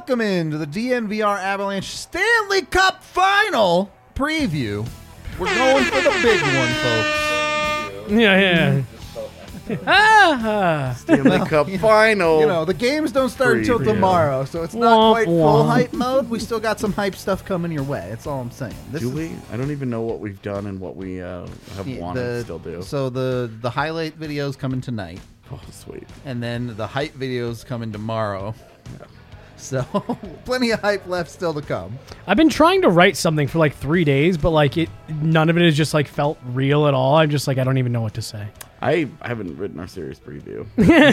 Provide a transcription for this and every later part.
Welcome into the DNVR Avalanche Stanley Cup Final preview. We're going for the big one, folks. Yeah. Stanley Cup Final. You know, the games don't start until tomorrow, so it's not quite full hype mode. We still got some hype stuff coming your way. That's all I'm saying. Do we? I don't even know what we've done and what we have wanted to still do. So the highlight videos coming tonight. Oh, sweet. And then the hype videos coming tomorrow. Yeah. So plenty of hype left still to come. I've been trying to write something for like 3 days, but like none of it has just like felt real at all. I'm just like, I don't even know what to say. I haven't written our series preview.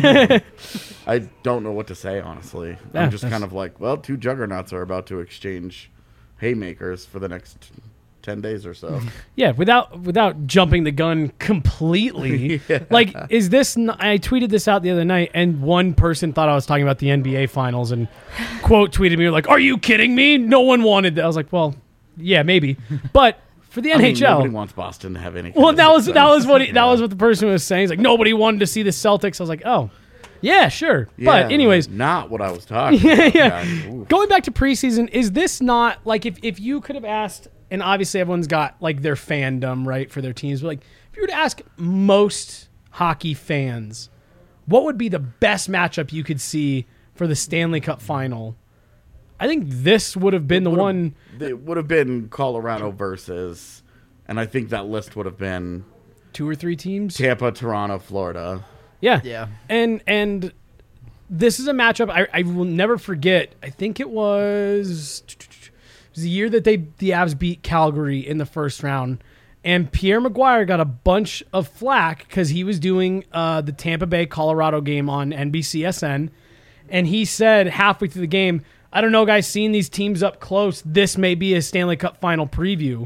I don't know what to say, honestly. Yeah, I'm just kind of like, well, two juggernauts are about to exchange haymakers for the next 10 days or so. Yeah, without jumping the gun completely. Yeah. Like, is this... I tweeted this out the other night, and one person thought I was talking about the NBA Finals, and quote tweeted me, like, are you kidding me? No one wanted that. I was like, well, yeah, maybe. But... for the NHL, nobody wants Boston to have any. Well, that was what the person was saying. He's like, nobody wanted to see the Celtics. I was like, oh, yeah, sure. Yeah, but anyways, not what I was talking about. Yeah. Going back to preseason, is this not like if you could have asked, and obviously everyone's got like their fandom right for their teams, but like if you were to ask most hockey fans, what would be the best matchup you could see for the Stanley Cup Final? I think this would have been the one. It would have been Colorado versus, and I think that list would have been 2 or 3 teams. Tampa, Toronto, Florida. Yeah. Yeah. And this is a matchup I will never forget. I think it was the year that the Avs beat Calgary in the first round. And Pierre Maguire got a bunch of flack because he was doing the Tampa Bay Colorado game on NBCSN. And he said halfway through the game, I don't know, guys, seeing these teams up close, this may be a Stanley Cup Final preview.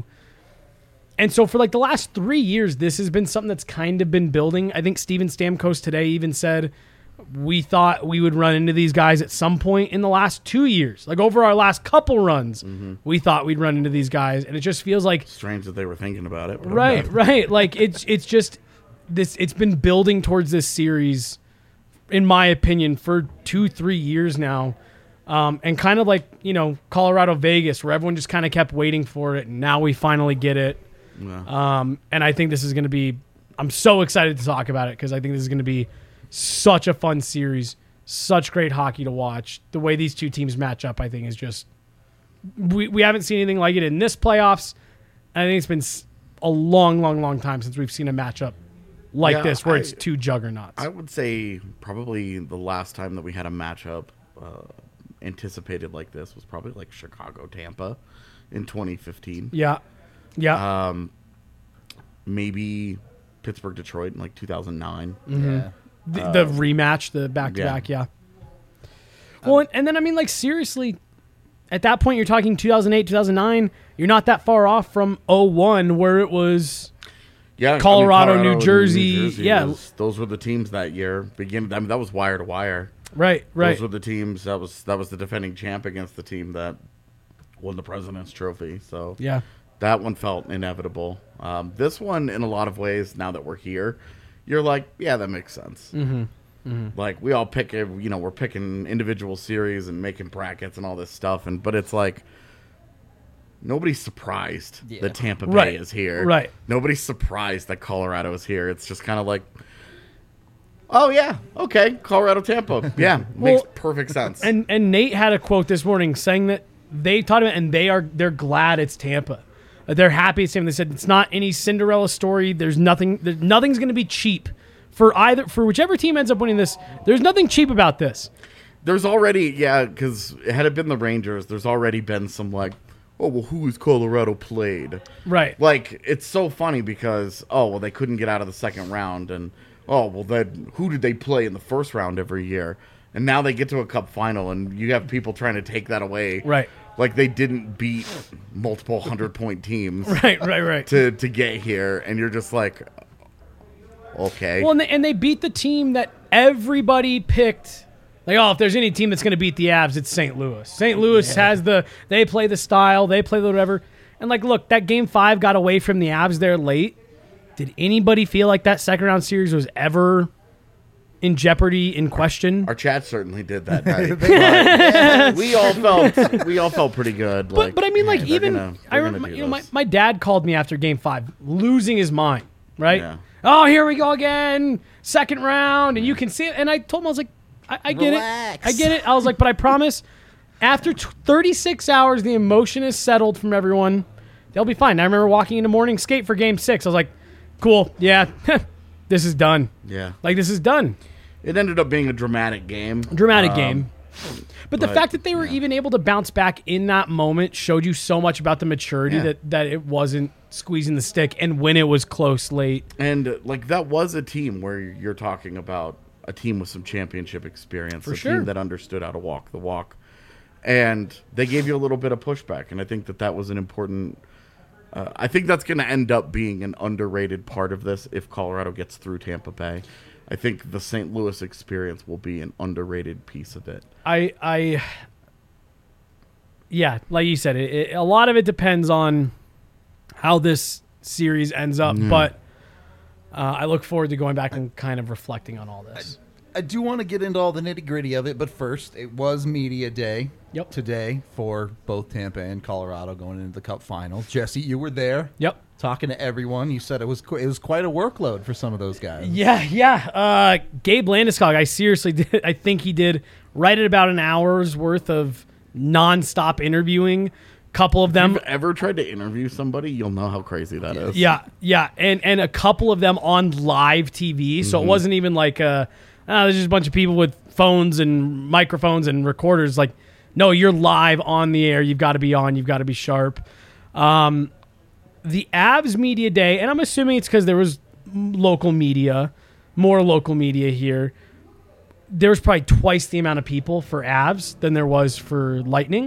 And so for like the last 3 years, this has been something that's kind of been building. I think Steven Stamkos today even said we thought we would run into these guys at some point in the last 2 years. Like over our last couple runs, we thought we'd run into these guys. And it just feels like... strange that they were thinking about it. Right. Like it's just... it's been building towards this series, in my opinion, for 2-3 years now. And kind of like, Colorado Vegas, where everyone just kind of kept waiting for it, and now we finally get it. Yeah. And I think this is going to be, I'm so excited to talk about it because I think this is going to be such a fun series, such great hockey to watch. The way these two teams match up, I think, is just, we haven't seen anything like it in this playoffs. I think it's been a long, long, long time since we've seen a matchup like this where it's two juggernauts. I would say probably the last time that we had a matchup anticipated like this was probably like Chicago-Tampa in 2015. Yeah. Maybe Pittsburgh-Detroit in like 2009. Mm-hmm. Yeah. The rematch, the back-to-back, yeah. Well, and then, I mean, like, seriously, at that point, you're talking 2008, 2009. You're not that far off from 2001, where it was Colorado, New Jersey. Yeah. Those were the teams that year. That was wire to wire. Right. Those were the teams. That was the defending champ against the team that won the President's Trophy. So yeah, that one felt inevitable. This one, in a lot of ways, now that we're here, you're like, yeah, that makes sense. Mm-hmm. Mm-hmm. Like we all pick, we're picking individual series and making brackets and all this stuff, but it's like nobody's surprised that Tampa Bay is here. Right. Nobody's surprised that Colorado is here. It's just kind of like, oh, yeah, okay, Colorado, Tampa. Yeah, makes perfect sense. And Nate had a quote this morning saying that they taught him, and they're glad it's Tampa. They're happy it's Tampa. They said it's not any Cinderella story. Nothing's going to be cheap for whichever team ends up winning this. There's nothing cheap about this. There's already, because had it been the Rangers, there's already been some like, oh, well, who has Colorado played? Right. Like, it's so funny because, they couldn't get out of the second round, and then who did they play in the first round every year? And now they get to a cup final, and you have people trying to take that away. Right. Like they didn't beat multiple 100-point teams. Right. To get here, and you're just like, okay. Well, and they beat the team that everybody picked. Like, if there's any team that's going to beat the Avs, it's St. Louis. St. Louis has they play the style, they play the whatever. And, like, look, that Game 5 got away from the Avs there late. Did anybody feel like that second-round series was ever in jeopardy, in question. Our chat certainly did that night. we all felt pretty good. But I mean, like, even I remember, my dad called me after Game 5, losing his mind. Right? Yeah. Oh, here we go again, second round, and you can see it. And I told him, I was like, I get Relax. it, I get it. I was like, but I promise, after 36 hours, the emotion is settled from everyone. They'll be fine. I remember walking into morning skate for Game 6. I was like, cool, yeah, this is done. Yeah. Like, this is done. It ended up being a dramatic game. Game. But the fact that they were even able to bounce back in that moment showed you so much about the maturity that it wasn't squeezing the stick, and when it was close late. And, like, that was a team where you're talking about a team with some championship experience. For sure. Team that understood how to walk the walk. And they gave you a little bit of pushback, and I think that was an important... I think that's going to end up being an underrated part of this if Colorado gets through Tampa Bay. I think the St. Louis experience will be an underrated piece of it. Yeah, like you said, a lot of it depends on how this series ends up, but I look forward to going back and kind of reflecting on all this. I do want to get into all the nitty-gritty of it, but first, it was media day today for both Tampa and Colorado going into the Cup Finals. Jesse, you were there. Yep. Talking to everyone. You said it was quite a workload for some of those guys. Yeah. Gabe Landeskog, I seriously did. I think he did right at about an hour's worth of nonstop interviewing. Couple of them. If you've ever tried to interview somebody, you'll know how crazy that is. Yeah. And a couple of them on live TV. So it wasn't even like there's just a bunch of people with phones and microphones and recorders. Like, no, you're live on the air. You've got to be on. You've got to be sharp. The Avs media day, and I'm assuming it's because there was more local media here. There was probably twice the amount of people for Avs than there was for Lightning.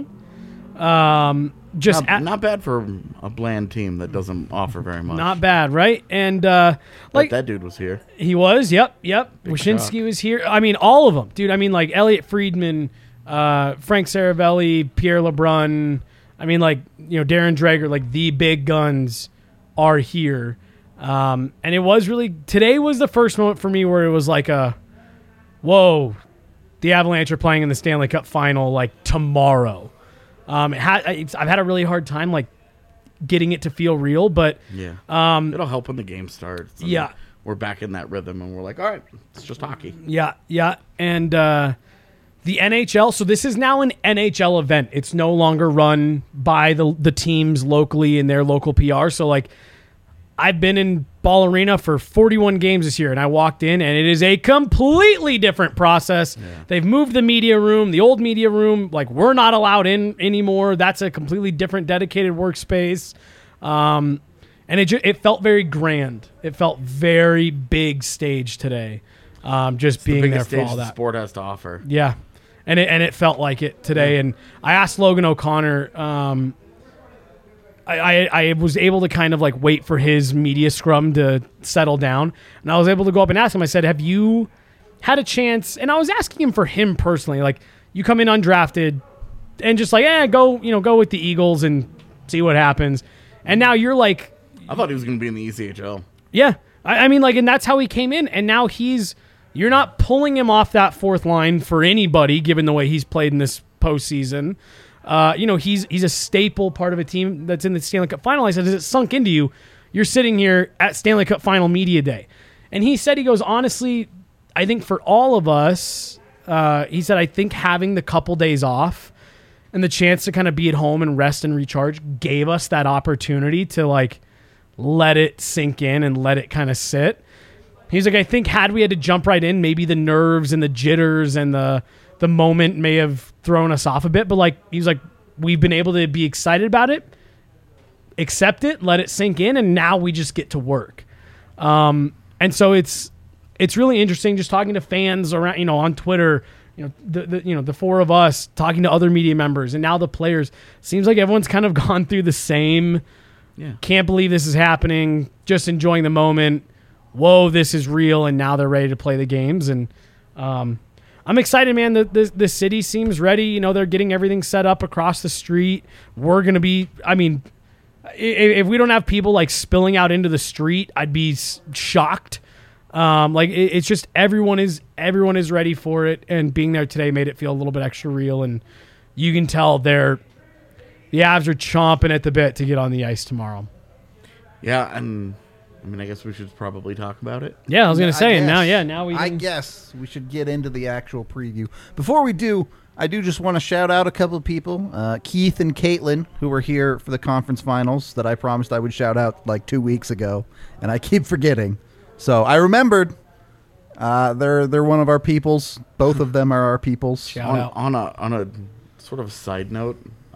Not bad for a bland team that doesn't offer very much. Not bad, right? And like that dude was here. He was. Yep. Wyshynski was here. I mean, all of them, dude. I mean, like Elliot Friedman, Frank Saravelli, Pierre LeBrun. I mean, like, Darren Dreger, like the big guns are here. And it was really, today was the first moment for me where it was like whoa, the Avalanche are playing in the Stanley Cup final like tomorrow. I've had a really hard time like getting it to feel real, but it'll help when the game starts. Yeah. We're back in that rhythm and we're like, all right, it's just hockey. Yeah. And, the NHL, so this is now an NHL event. It's no longer run by the teams locally in their local PR. So, like, I've been in Ball Arena for 41 games this year, and I walked in, and it is a completely different process. Yeah. They've moved the media room, the old media room. Like, we're not allowed in anymore. That's a completely different dedicated workspace. And it felt very grand. It felt very big stage today. Just being there for all that. The sport has to offer. Yeah. And it felt like it today. Yeah. And I asked Logan O'Connor, I was able to kind of like wait for his media scrum to settle down. And I was able to go up and ask him, I said, have you had a chance? And I was asking him for him personally, like, you come in undrafted and just like, go with the Eagles and see what happens. And now you're like, I thought he was going to be in the ECHL. Yeah. I mean, like, and that's how he came in. And now you're not pulling him off that fourth line for anybody, given the way he's played in this postseason. He's a staple part of a team that's in the Stanley Cup final. I said, has it sunk into you? You're sitting here at Stanley Cup final media day. And he goes, honestly, I think for all of us, he said, I think having the couple days off and the chance to kind of be at home and rest and recharge gave us that opportunity to like let it sink in and let it kind of sit. He's like, I think had we had to jump right in, maybe the nerves and the jitters and the moment may have thrown us off a bit. But like, he's like, we've been able to be excited about it, accept it, let it sink in, and now we just get to work. And so it's really interesting just talking to fans around, on Twitter, the four of us talking to other media members and now the players. Seems like everyone's kind of gone through the same. Yeah. Can't believe this is happening. Just enjoying the moment. Whoa, this is real, and now they're ready to play the games. And I'm excited, man. The city seems ready. They're getting everything set up across the street. We're going to be, I mean, if we don't have people like spilling out into the street, I'd be shocked. It's just everyone is ready for it, and being there today made it feel a little bit extra real. And you can tell the Avs are chomping at the bit to get on the ice tomorrow. Yeah, and I guess we should probably talk about it. Yeah, I was going to say, now we. I guess we should get into the actual preview. Before we do, I do just want to shout out a couple of people, Keith and Caitlin, who were here for the conference finals that I promised I would shout out like 2 weeks ago, and I keep forgetting. So I remembered. They're one of our peoples. Both of them are our peoples. Shout out. On a sort of side note,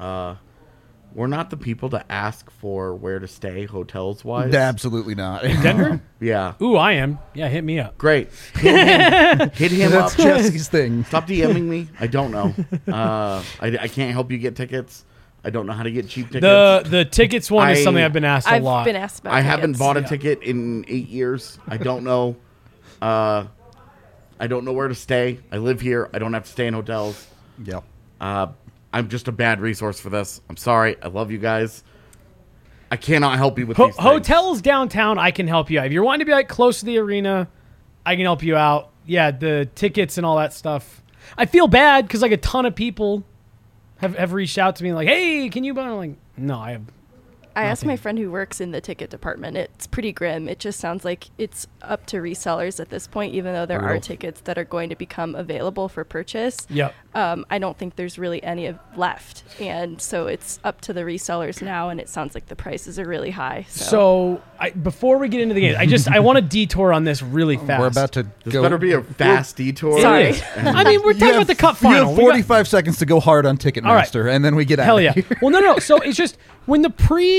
we're not the people to ask for where to stay hotels wise. Absolutely not. In Denver? Yeah. Ooh, I am. Yeah, hit me up. Great. Hit him That's up. Jesse's thing. Stop DMing me. I don't know. I can't help you get tickets. I don't know how to get cheap tickets. The tickets one is something I've been asked a lot. I've been asked about I tickets. haven't bought a ticket in 8 years. I don't know. I don't know where to stay. I live here. I don't have to stay in hotels. Yep. I'm just a bad resource for this. I'm sorry. I love you guys. I cannot help you with these things. Hotels downtown, I can help you out. If you're wanting to be like close to the arena, I can help you out. Yeah, the tickets and all that stuff. I feel bad because like a ton of people have reached out to me like, hey, can you buy? I'm like, no, I have. I asked my friend who works in the ticket department. It's pretty grim. It just sounds like it's up to resellers at this point, even though there are tickets that are going to become available for purchase. Yep. I don't think there's really any left. And so it's up to the resellers now, and it sounds like the prices are really high. So before we get into the game, I want to detour on this really fast. We're about to This go. better be a fast detour. Sorry. I mean, we're talking about the cup final. You have 45 seconds to go hard on Ticketmaster, and then we get out Hell of yeah. here. Well, no. So it's just when the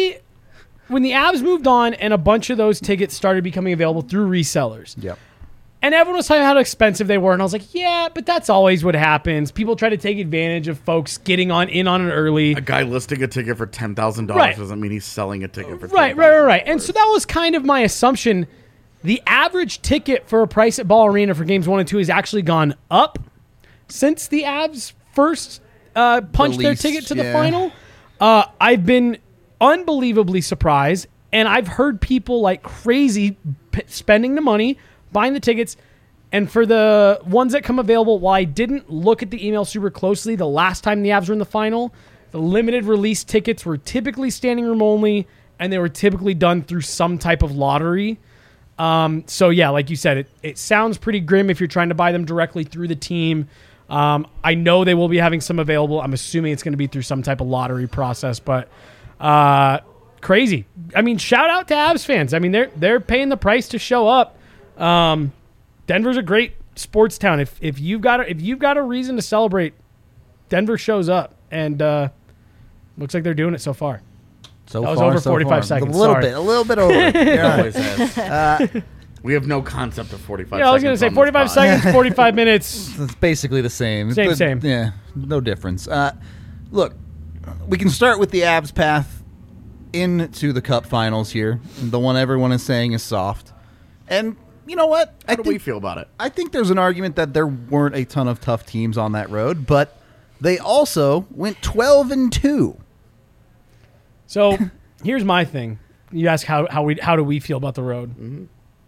Avs moved on and a bunch of those tickets started becoming available through resellers. Yep. And everyone was talking about how expensive they were. And I was like, yeah, but that's always what happens. People try to take advantage of folks getting in on it early. A guy listing a ticket for $10,000 Right. doesn't mean he's selling a ticket for Right. $10,000. And so that was kind of my assumption. The average ticket for a price at Ball Arena for games 1 and 2 has actually gone up since the Avs first punched their ticket to the final. I've been unbelievably surprised, and I've heard people like crazy spending the money, buying the tickets, and for the ones that come available, while I didn't look at the email super closely the last time the Avs were in the final, the limited release tickets were typically standing room only, and they were typically done through some type of lottery. So yeah, like you said, it sounds pretty grim if you're trying to buy them directly through the team. I know they will be having some available. I'm assuming it's going to be through some type of lottery process, but crazy. I mean, shout out to Avs fans. I mean, they're paying the price to show up. Denver's a great sports town. If you've got a reason to celebrate, Denver shows up, and looks like they're doing it so far. That was over 45 seconds. A little bit over. Yeah. We have no concept of 45 seconds. Yeah, I was going to say 45 seconds, 45 minutes. It's basically the same. Same. Yeah, no difference. Look, we can start with the Avs path into the Cup Finals here. The one everyone is saying is soft. And you know what? How do we feel about it? I think there's an argument that there weren't a ton of tough teams on that road, but they also went 12-2. So here's my thing. You ask how do we feel about the road? Mm-hmm.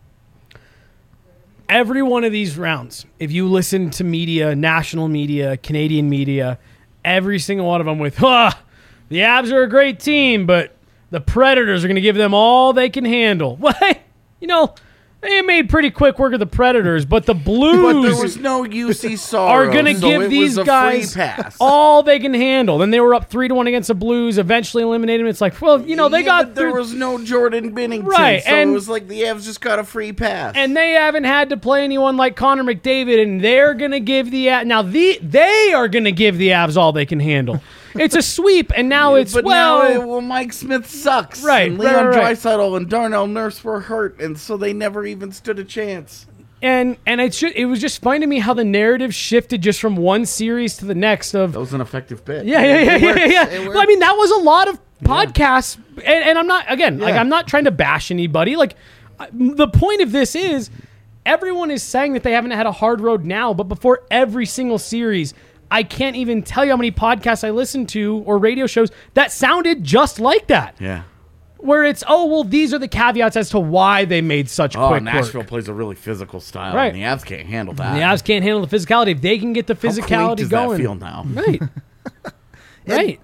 Every one of these rounds, if you listen to media, national media, Canadian media, every single one of them with, the Avs are a great team, but the Predators are going to give them all they can handle. Well, they made pretty quick work of the Predators, but the Blues But there was no UC Soros, are going to give these guys all they can handle. Then they were up 3-1 against the Blues, eventually eliminated them. It's like, they got there was no Jordan Binnington, right, so it was like the Avs just got a free pass. And they haven't had to play anyone like Connor McDavid, and they're going to give the they are going to give the Avs all they can handle. It's a sweep, and now now Mike Smith sucks. Right, and Leon right. Draisaitl and Darnell Nurse were hurt, and so they never even stood a chance. And it was just funny to me how the narrative shifted just from one series to the next. That was an effective bit. Yeah. Well, I mean, that was a lot of podcasts, and I'm not I'm not trying to bash anybody. Like, the point of this is everyone is saying that they haven't had a hard road now, but before every single series, I can't even tell you how many podcasts I listened to or radio shows that sounded just like that. Yeah. where it's, oh, well, these are the caveats as to why they made such quick Nashville work. plays a really physical style, Right. and the Avs can't handle that. The Avs can't handle the physicality. If they can get the How quaint physicality does going. that feel now? Right. Right.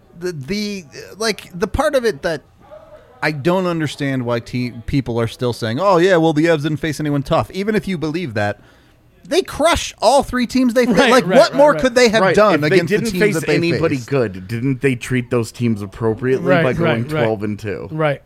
The part of it that I don't understand why people are still saying, "Oh yeah, well the Avs didn't face anyone tough." Even if you believe that, they crush all three teams they faced. Right, what more could they have Right. done if against they the didn't teams face that they anybody faced? good, didn't they treat those teams appropriately Right, by going right, right. 12-2? Right.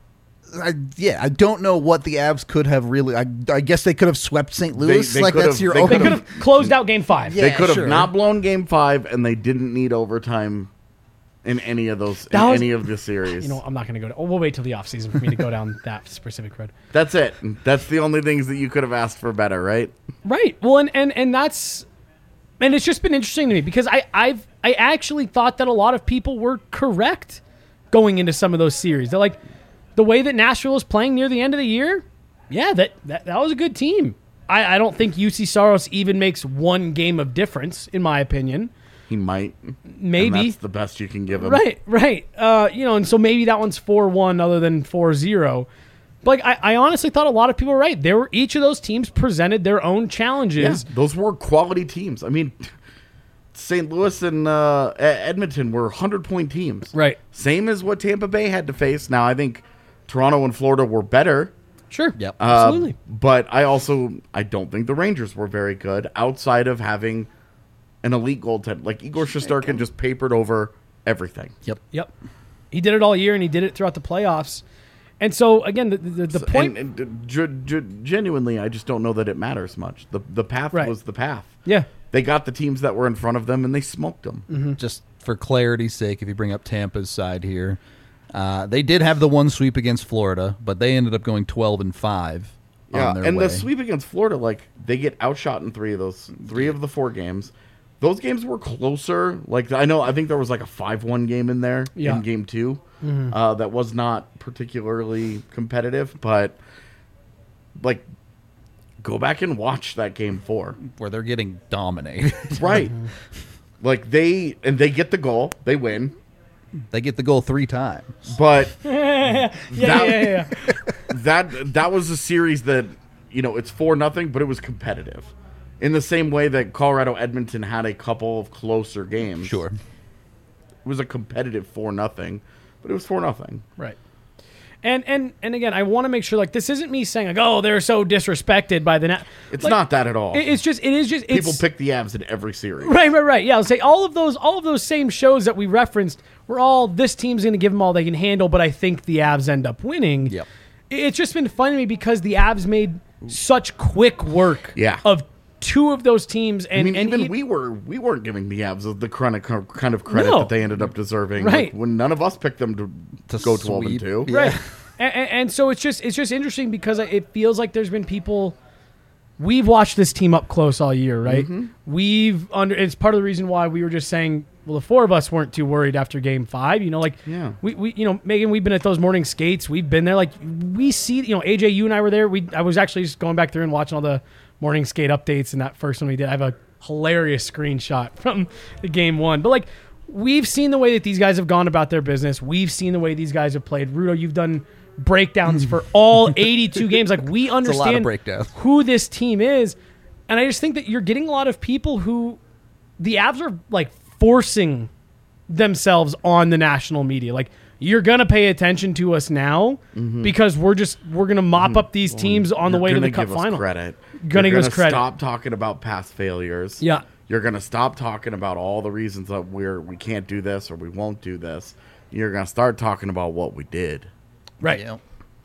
I don't know what the Avs could have really. I guess they could have swept St. Louis. they like could that's have- your they own. They could've- could have closed out Game 5. Yeah. They could have sure. not blown Game 5, and they didn't need overtime in any of those That was- any of the series. You know, I'm not going to go. We'll wait till the offseason for me to go down that specific road. That's it. That's the only things that you could have asked for better, right? Right. Well, and that's, and it's just been interesting to me because I actually thought that a lot of people were correct going into some of those series. They're like, the way that Nashville was playing near the end of the year, yeah, that was a good team. I don't think UC Saros even makes one game of difference, in my opinion. He might. Maybe. And that's the best you can give him. Right. And so maybe that one's 4-1 other than 4-0. But like, I honestly thought a lot of people were right. Each of those teams presented their own challenges. Yeah, those were quality teams. I mean, St. Louis and Edmonton were 100-point teams. Right. Same as what Tampa Bay had to face. Now, I think Toronto and Florida were better. Sure. Yep. Absolutely. But I don't think the Rangers were very good outside of having an elite goaltender. Like Igor Shesterkin just papered over everything. Yep. He did it all year, and he did it throughout the playoffs. And so, again, the point... Genuinely, I just don't know that it matters much. The path Right. was the path. Yeah. They got the teams that were in front of them, and they smoked them. Just for clarity's sake, if you bring up Tampa's side here, they did have the one sweep against Florida, but they ended up going 12-5. Yeah, on their and way. the sweep against Florida, like, they get outshot in three of the 4 games. Those games were closer. Like, I think there was like a 5-1 game in there in game 2 that was not particularly competitive, but like, go back and watch that game 4. where they're getting dominated. Right. Like, they get the goal, they win, They get the goal 3 times. but Yeah. that was a series that, it's 4-0, but it was competitive. In the same way that Colorado Edmonton had a couple of closer games. Sure. It was a competitive 4-0, but it was 4-0. Right. And again, I want to make sure, like, this isn't me saying, like, oh, they're so disrespected by the... It's not that at all. It is just... People pick the Avs in every series. Right. Yeah, I'll say all of those same shows that we referenced were all, this team's going to give them all they can handle, but I think the Avs end up winning. Yep. It's just been fun to me because the Avs made such quick work of 2 of those teams. And, we weren't giving the Avs the kind of credit No. that they ended up deserving. Right. Like, when none of us picked them to go sweep. 12-2. Yeah. Right. And so it's just interesting because it feels like there's been people... We've watched this team up close all year, right? Mm-hmm. It's part of the reason why we were just saying, well, the 4 of us weren't too worried after Game 5. Yeah. We Megan, we've been at those morning skates. We've been there. Like, we see, AJ, you and I were there. I was actually just going back through and watching all the morning skate updates, and that first one we did. I have a hilarious screenshot from the Game 1. But, like, we've seen the way that these guys have gone about their business. We've seen the way these guys have played. Rudo, you've done breakdowns for all 82 games. Like, we understand breakdowns. who this team is. And I just think that you're getting a lot of people who the Avs are, like, forcing themselves on the national media. Like, you're going to pay attention to us now because we're going to mop up these teams on the way to the Cup final. Gonna give us credit. Stop talking about past failures. Yeah. You're gonna stop talking about all the reasons that we can't do this or we won't do this. You're gonna start talking about what we did. Right. Yeah.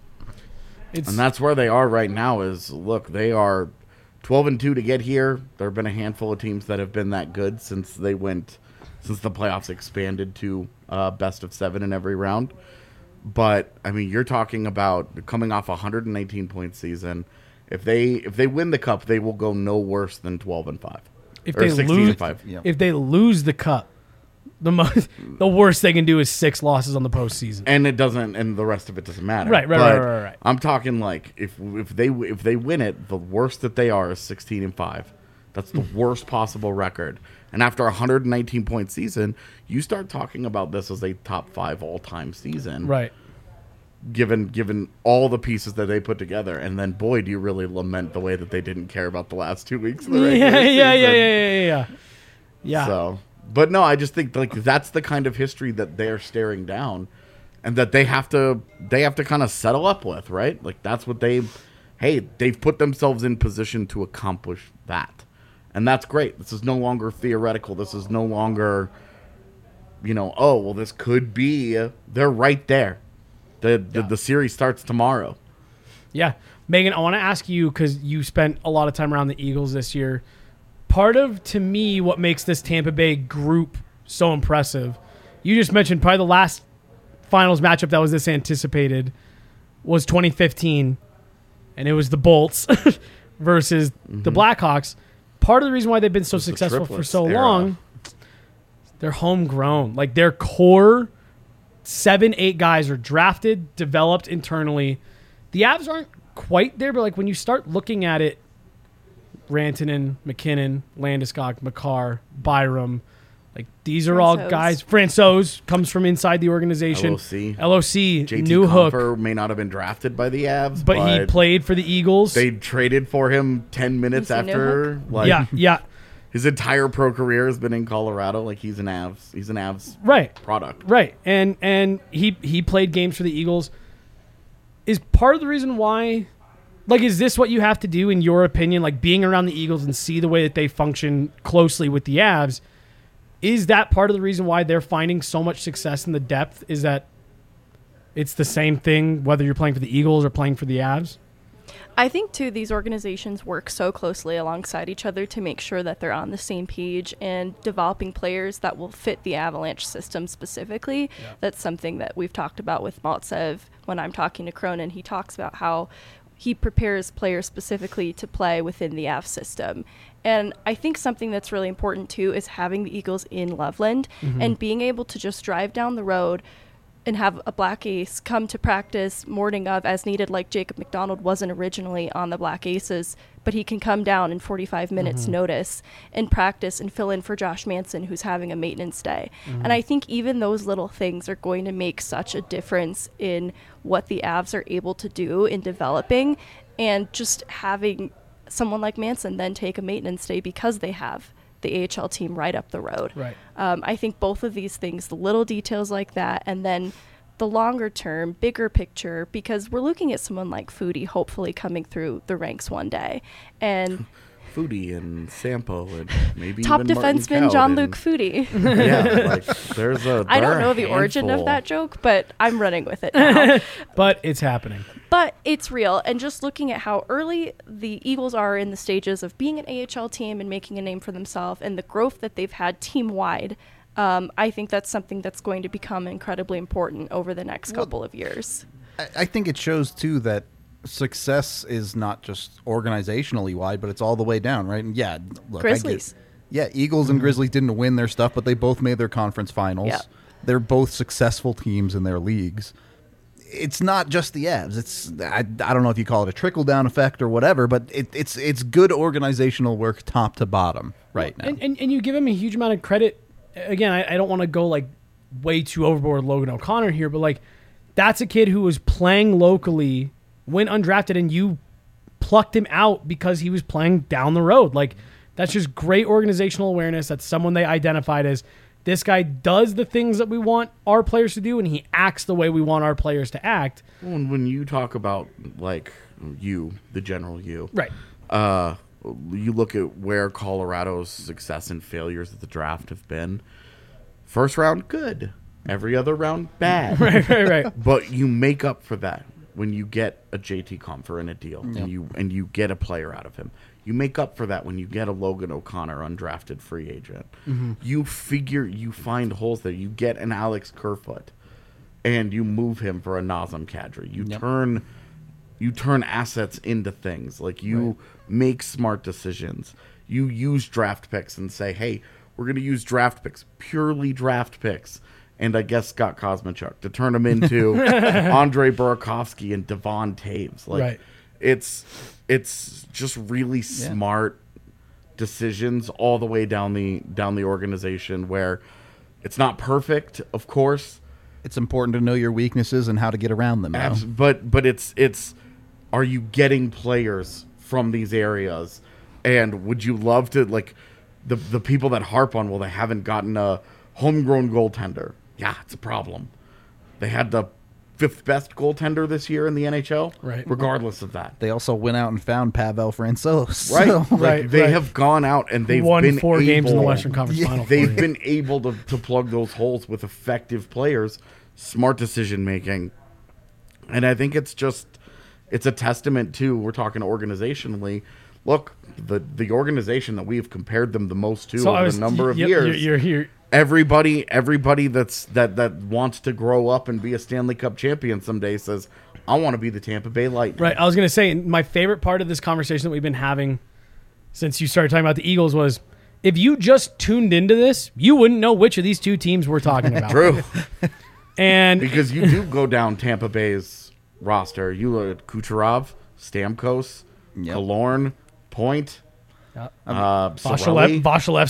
It's, And that's where they are right now. Is look, they are 12-2 to get here. There have been a handful of teams that have been that good since the playoffs expanded to best of 7 in every round. But I mean, you're talking about coming off a 119-point season. If they win the Cup, they will go no worse than 12-5. if or they lose, 16-5. Yeah. if they lose the Cup, the worst they can do is 6 losses on the postseason. And it doesn't, and the rest of it doesn't matter. Right. But I'm talking like if they win it, the worst that they are is 16-5. That's the worst possible record. And after a 119-point season, you start talking about this as a top 5 all-time season. Right. given all the pieces that they put together. And then, boy, do you really lament the way that they didn't care about the last 2 weeks of the regular season. Yeah. So, but no, I just think like that's the kind of history that they're staring down, and that they have to kind of settle up with, right? Like that's what they've put themselves in position to accomplish that, and that's great. This is no longer theoretical. This is no longer, oh well, this could be. They're right there. The series starts tomorrow. Yeah, Megan, I want to ask you because you spent a lot of time around the Eagles this year. Part of, to me, what makes this Tampa Bay group so impressive, you just mentioned probably the last finals matchup that was this anticipated was 2015, and it was the Bolts versus the Blackhawks. Part of the reason why they've been so successful for so long, they're homegrown. Like their core 7-8 guys are drafted, developed internally. The Avs aren't quite there, but like when you start looking at it, Rantanen, McKinnon, Landeskog, Makar, Byram, like these are all guys. Francouz comes from inside the organization. LOC, JT New Hook Compher may not have been drafted by the Avs, but he played for the Eagles. They traded for him 10 minutes after. Yeah. His entire pro career has been in Colorado. Like he's an Avs product. Right. And he played games for the Eagles. Is part of the reason why, like, is this what you have to do in your opinion? Like being around the Eagles and see the way that they function closely with the Avs, is that part of the reason why they're finding so much success in the depth? Is that it's the same thing whether you're playing for the Eagles or playing for the Avs? I think, too, these organizations work so closely alongside each other to make sure that they're on the same page and developing players that will fit the Avalanche system specifically. Yeah. That's something that we've talked about with Maltsev. When I'm talking to Cronin, he talks about how he prepares players specifically to play within the Avs system. And I think something that's really important, too, is having the Eagles in Loveland and being able to just drive down the road and have a Black Ace come to practice morning of as needed, like Jacob McDonald wasn't originally on the Black Aces, but he can come down in 45 minutes notice and practice and fill in for Josh Manson, who's having a maintenance day. And I think even those little things are going to make such a difference in what the Avs are able to do in developing, and just having someone like Manson then take a maintenance day because they have the AHL team right up the road. Right. I think both of these things, the little details like that, and then the longer term, bigger picture, because we're looking at someone like Foodie hopefully coming through the ranks one day. And Foodie and Sampo and maybe top even defenseman Jean-Luc Foodie. Yeah, like there's a I don't know the origin of that joke, but I'm running with it now. But it's happening. But it's real. And just looking at how early the Eagles are in the stages of being an AHL team and making a name for themselves and the growth that they've had team-wide, I think that's something that's going to become incredibly important over the next couple of years. I think it shows, too, that success is not just organizationally wide, but it's all the way down, right? And yeah, look, Grizzlies. Eagles and Grizzlies didn't win their stuff, but they both made their conference finals. Yeah. They're both successful teams in their leagues. It's not just the Avs. It's I don't know if you call it a trickle-down effect or whatever, but it's good organizational work top to bottom right now. And you give him a huge amount of credit. Again, I don't want to go like way too overboard with Logan O'Connor here, but like that's a kid who was playing locally, went undrafted, and you plucked him out because he was playing down the road. Like that's just great organizational awareness. That's someone they identified as, this guy does the things that we want our players to do, and he acts the way we want our players to act. When you talk about, like, the general you. Right. You look at where Colorado's success and failures at the draft have been. First round, good. Every other round, bad. Right. But you make up for that when you get a JT Compher in a deal, Yep. and you get a player out of him. You make up for that when you get a Logan O'Connor undrafted free agent. You find holes there. You get an Alex Kerfoot, and you move him for a Nazem Kadri. You turn assets into things. Like you make smart decisions. You use draft picks and say, hey, we're going to use draft picks, purely draft picks. And I guess Scott Kosmachuk to turn them into Andre Burakovsky and Devon Taves. Like it's just really smart decisions all the way down the organization, where it's not perfect, of course, It's important to know your weaknesses and how to get around them. Though. But it's are you getting players from these areas? And would you love to, like, the people that harp on, well, they haven't gotten a homegrown goaltender. Yeah, it's a problem. They had the 5th best goaltender this year in the NHL, right? Regardless of that, they also went out and found Pavel Francouz, right? So. Like, they have gone out and they've won been 4 games in the Western Conference Final. They've been able to plug those holes with effective players, smart decision making, and I think it's a testament to, we're talking organizationally. Look, the organization that we've compared them the most to over the number of years. You're here. Everybody that wants to grow up and be a Stanley Cup champion someday says, I want to be the Tampa Bay Lightning. Right. I was going to say, my favorite part of this conversation that we've been having since you started talking about the Eagles was, if you just tuned into this, you wouldn't know which of these 2 teams we're talking about. True. And because you do go down Tampa Bay's roster. You look at Kucherov, Stamkos, Killorn, Point, Vasilevsky,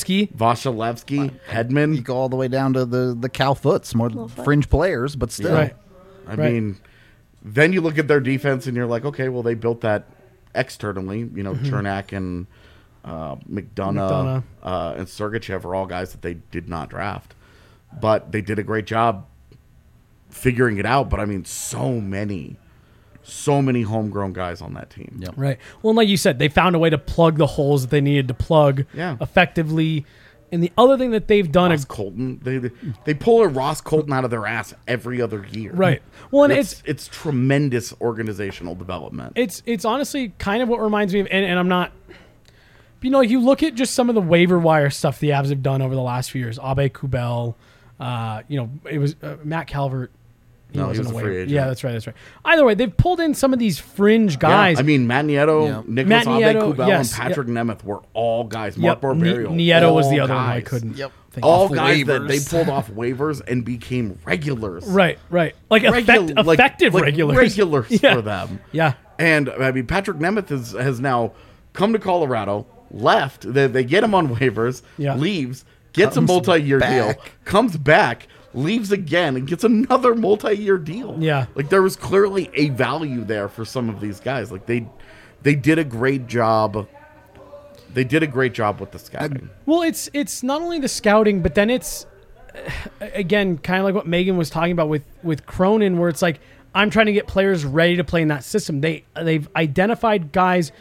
Hedman. You go all the way down to the Cal Foots, more fringe players, but still. Right. I mean, then you look at their defense and you're like, okay, well, they built that externally. You know, Chernak and McDonough and Sergachev are all guys that they did not draft. But they did a great job figuring it out. But, I mean, so many homegrown guys on that team. Yep. Right. Well, and like you said, they found a way to plug the holes that they needed to plug effectively. And the other thing that they've done Ross Colton, they pull a Ross Colton out of their ass every other year. Right. Well, and it's tremendous organizational development. It's honestly kind of what reminds me of, and I'm not, you know, you look at just some of the waiver wire stuff the Avs have done over the last few years. Abe Kubel, you know, it was Matt Calvert. He was a free agent. Yeah, that's right. Either way, they've pulled in some of these fringe guys. Yeah, I mean, Matt Nieto, Nicholas Abe-Kubel, and Patrick Nemeth were all guys. Mark Barberio. Nieto was the other one I couldn't think of. All guys that they pulled off waivers and became regulars. Right. Like effective regulars. Regulars for them. Yeah. And, I mean, Patrick Nemeth has now come to Colorado, left. They get him on waivers, leaves, gets a multi-year deal, comes back, leaves again and gets another multi-year deal. Yeah. Like, there was clearly a value there for some of these guys. Like, they did a great job. They did a great job with the scouting. Well, it's not only the scouting, but then it's, again, kind of like what Megan was talking about with Cronin, where it's like, I'm trying to get players ready to play in that system. They've identified guys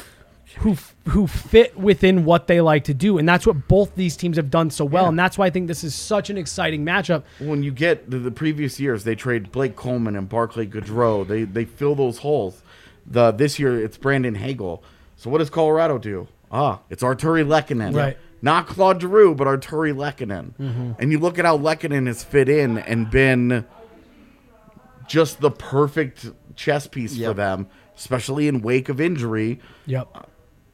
who fit within what they like to do, and that's what both these teams have done so well, and that's why I think this is such an exciting matchup. When you get the previous years, they trade Blake Coleman and Barclay Goodrow. They fill those holes. This year, it's Brandon Hagel. So what does Colorado do? It's Arturi Lehkonen. Right. Not Claude Giroux, but Arturi Lehkonen. Mm-hmm. And you look at how Lehkonen has fit in and been just the perfect chess piece for them, especially in wake of injury. Yep.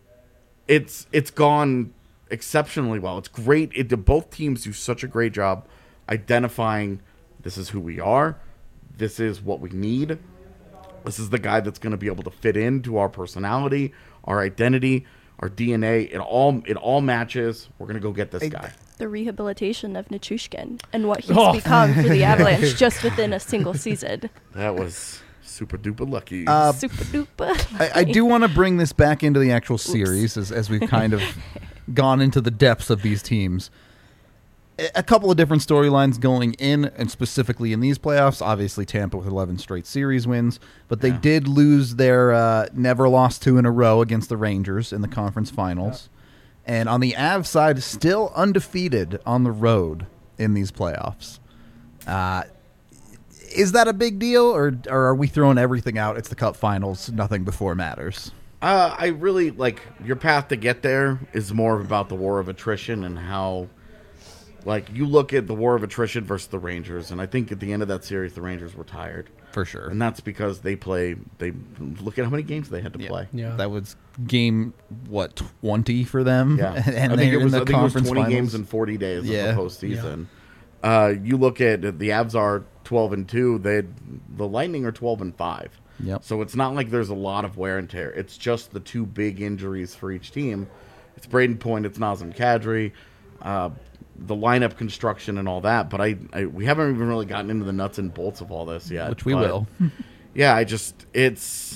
It's gone exceptionally well. It's great. Both teams do such a great job identifying, this is who we are, this is what we need, this is the guy that's going to be able to fit into our personality, our identity, our DNA. It all matches. We're going to go get this guy. The rehabilitation of Nichushkin and what he's become for the Avalanche just within a single season. That was super duper lucky. Super duper. I do want to bring this back into the actual series as we've kind of gone into the depths of these teams. A couple of different storylines going in, and specifically in these playoffs. Obviously, Tampa with 11 straight series wins, but they did lose their never lost 2 in a row against the Rangers in the conference finals. And on the Avs side, still undefeated on the road in these playoffs. Is that a big deal, or are we throwing everything out? It's the Cup Finals. Nothing before matters. I really, like, your path to get there is more about the war of attrition and how, like, you look at the war of attrition versus the Rangers, and I think at the end of that series, the Rangers were tired. For sure. And that's because they look at how many games they had to play. Yeah. That was game, 20 for them? Yeah. And I think it was 20 finals. games in 40 days of the postseason. Yeah. You look at the Avs are 12-2. The Lightning are 12-5. Yep. So it's not like there's a lot of wear and tear. It's just the 2 big injuries for each team. It's Braden Point. It's Nazem Kadri. the lineup construction and all that, but we haven't even really gotten into the nuts and bolts of all this yet. Which we will. Yeah, it's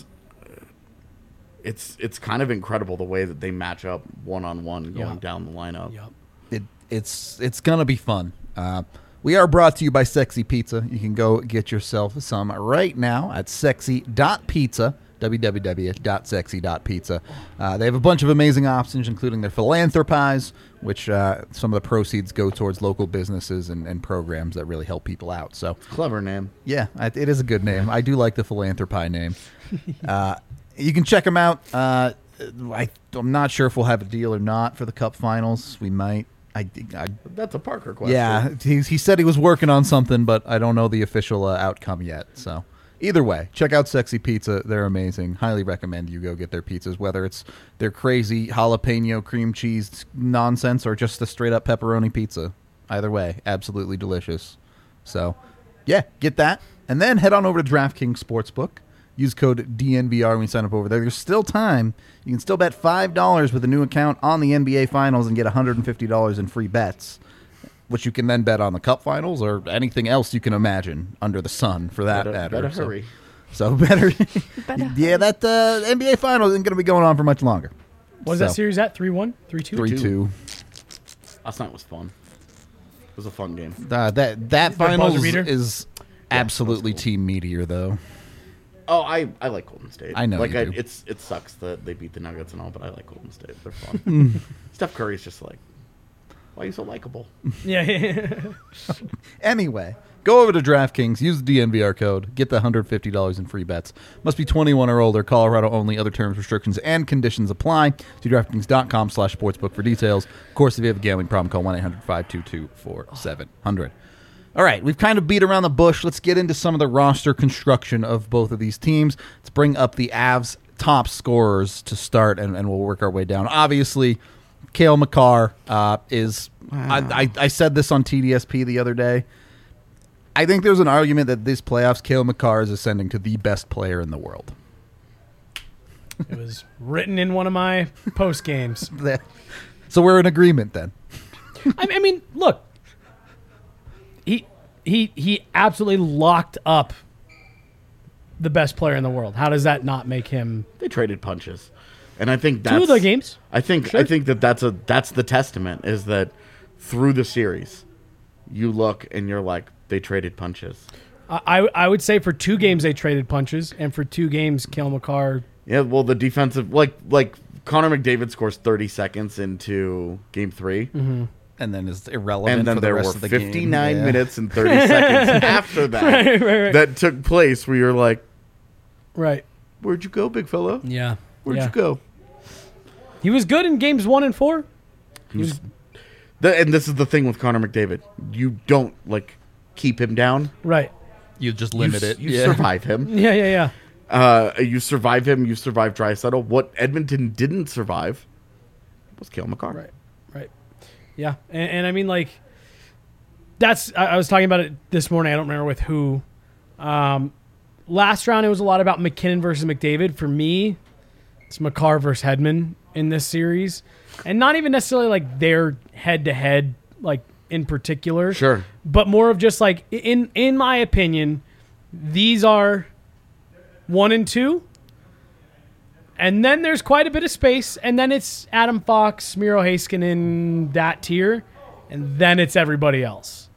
kind of incredible the way that they match up one-on-one going down the lineup. Yep. It's gonna be fun. We are brought to you by Sexy Pizza. You can go get yourself some right now at sexy.pizza, www.sexy.pizza. They have a bunch of amazing options, including their Philanthropies, which some of the proceeds go towards local businesses and programs that really help people out. So Clever name. yeah, it is a good name. I do like the Philanthropy name. You can check them out. I'm not sure if we'll have a deal or not for the Cup Finals. We might. That's a Parker question. Yeah, he said he was working on something, but I don't know the official outcome yet. So either way, check out Sexy Pizza. They're amazing. Highly recommend you go get their pizzas, whether it's their crazy jalapeno cream cheese nonsense or just a straight up pepperoni pizza. Either way, absolutely delicious. So yeah, get that. And then head on over to DraftKings Sportsbook. Use code DNVR when you sign up over there. There's still time. You can still bet $5 with a new account on the NBA Finals and get $150 in free bets, which you can then bet on the Cup Finals or anything else you can imagine under the sun, for that matter. Better hurry. So better. Better Yeah, that NBA Finals isn't going to be going on for much longer. What is that series at? 3-1? 3-2? 3-2. Last night was fun. It was a fun game. That Finals buzzer beater? is absolutely cool. Team Meteor, though. Oh, I like Golden State. I know like you do. it sucks that they beat the Nuggets and all, but I like Golden State. They're fun. Steph Curry's just like, why are you so likable? Yeah. Anyway, go over to DraftKings, use the DNVR code, get the $150 in free bets. Must be 21 or older, Colorado only. Other terms, restrictions, and conditions apply. See DraftKings.com/sportsbook for details. Of course, if you have a gambling problem, call 1-800-522-4700. All right, we've kind of beat around the bush. Let's get into some of the roster construction of both of these teams. Let's bring up the Avs' top scorers to start, and we'll work our way down. Obviously, Cale Makar is... Wow. I said this on TDSP the other day. I think there's an argument that this playoffs, Cale Makar is ascending to the best player in the world. It was written in one of my post games. So we're in agreement then. I mean, look. He absolutely locked up the best player in the world. How does that not make him? They traded punches, and I think that's 2 of the games. I think that that's the testament is that through the series, you look and you're like, they traded punches. I would say for 2 games they traded punches, and for 2 games, Cale Makar. Yeah, well, the defensive like Connor McDavid scores 30 seconds into Game 3. Mm-hmm. And then is irrelevant and then for the there rest were of the 59 game. minutes and 30 seconds after that Right. that took place where you're like, Right. where'd you go, big fella? Yeah. Where'd you go? He was good in games 1 and 4. And this is the thing with Connor McDavid. You don't, keep him down. Right. You just limit it. You survive him. Yeah. You survive him. You survive Draisaitl. What Edmonton didn't survive was Cale Makar. Right. Yeah, and I mean, that's... I was talking about it this morning. I don't remember with who. Last round, it was a lot about McKinnon versus McDavid. For me, it's Makar versus Hedman in this series. And not even necessarily, their head-to-head, in particular. Sure. But more of just, in my opinion, these are 1 and 2. And then there's quite a bit of space, and then it's Adam Fox, Miro Heiskanen, that tier, and then it's everybody else.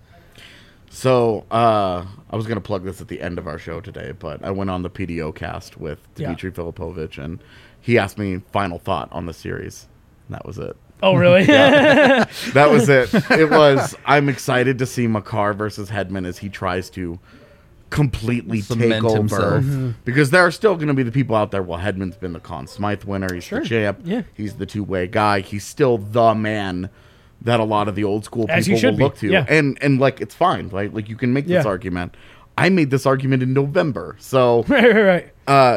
So I was going to plug this at the end of our show today, but I went on the PDO cast with Dmitry Filipovich, and he asked me final thought on the series. And that was it. Oh, really? That was it. It was, I'm excited to see Makar versus Hedman as he tries to completely Cement take over himself. because there are still going to be the people out there. Well, Hedman's been the Conn Smythe winner. He's Sure. the champ. Yeah. He's the two-way guy. He's still the man that a lot of the old school As he people should will look be. to. Yeah. And it's fine. Like you can make this Yeah. argument. I made this argument in November. So Right.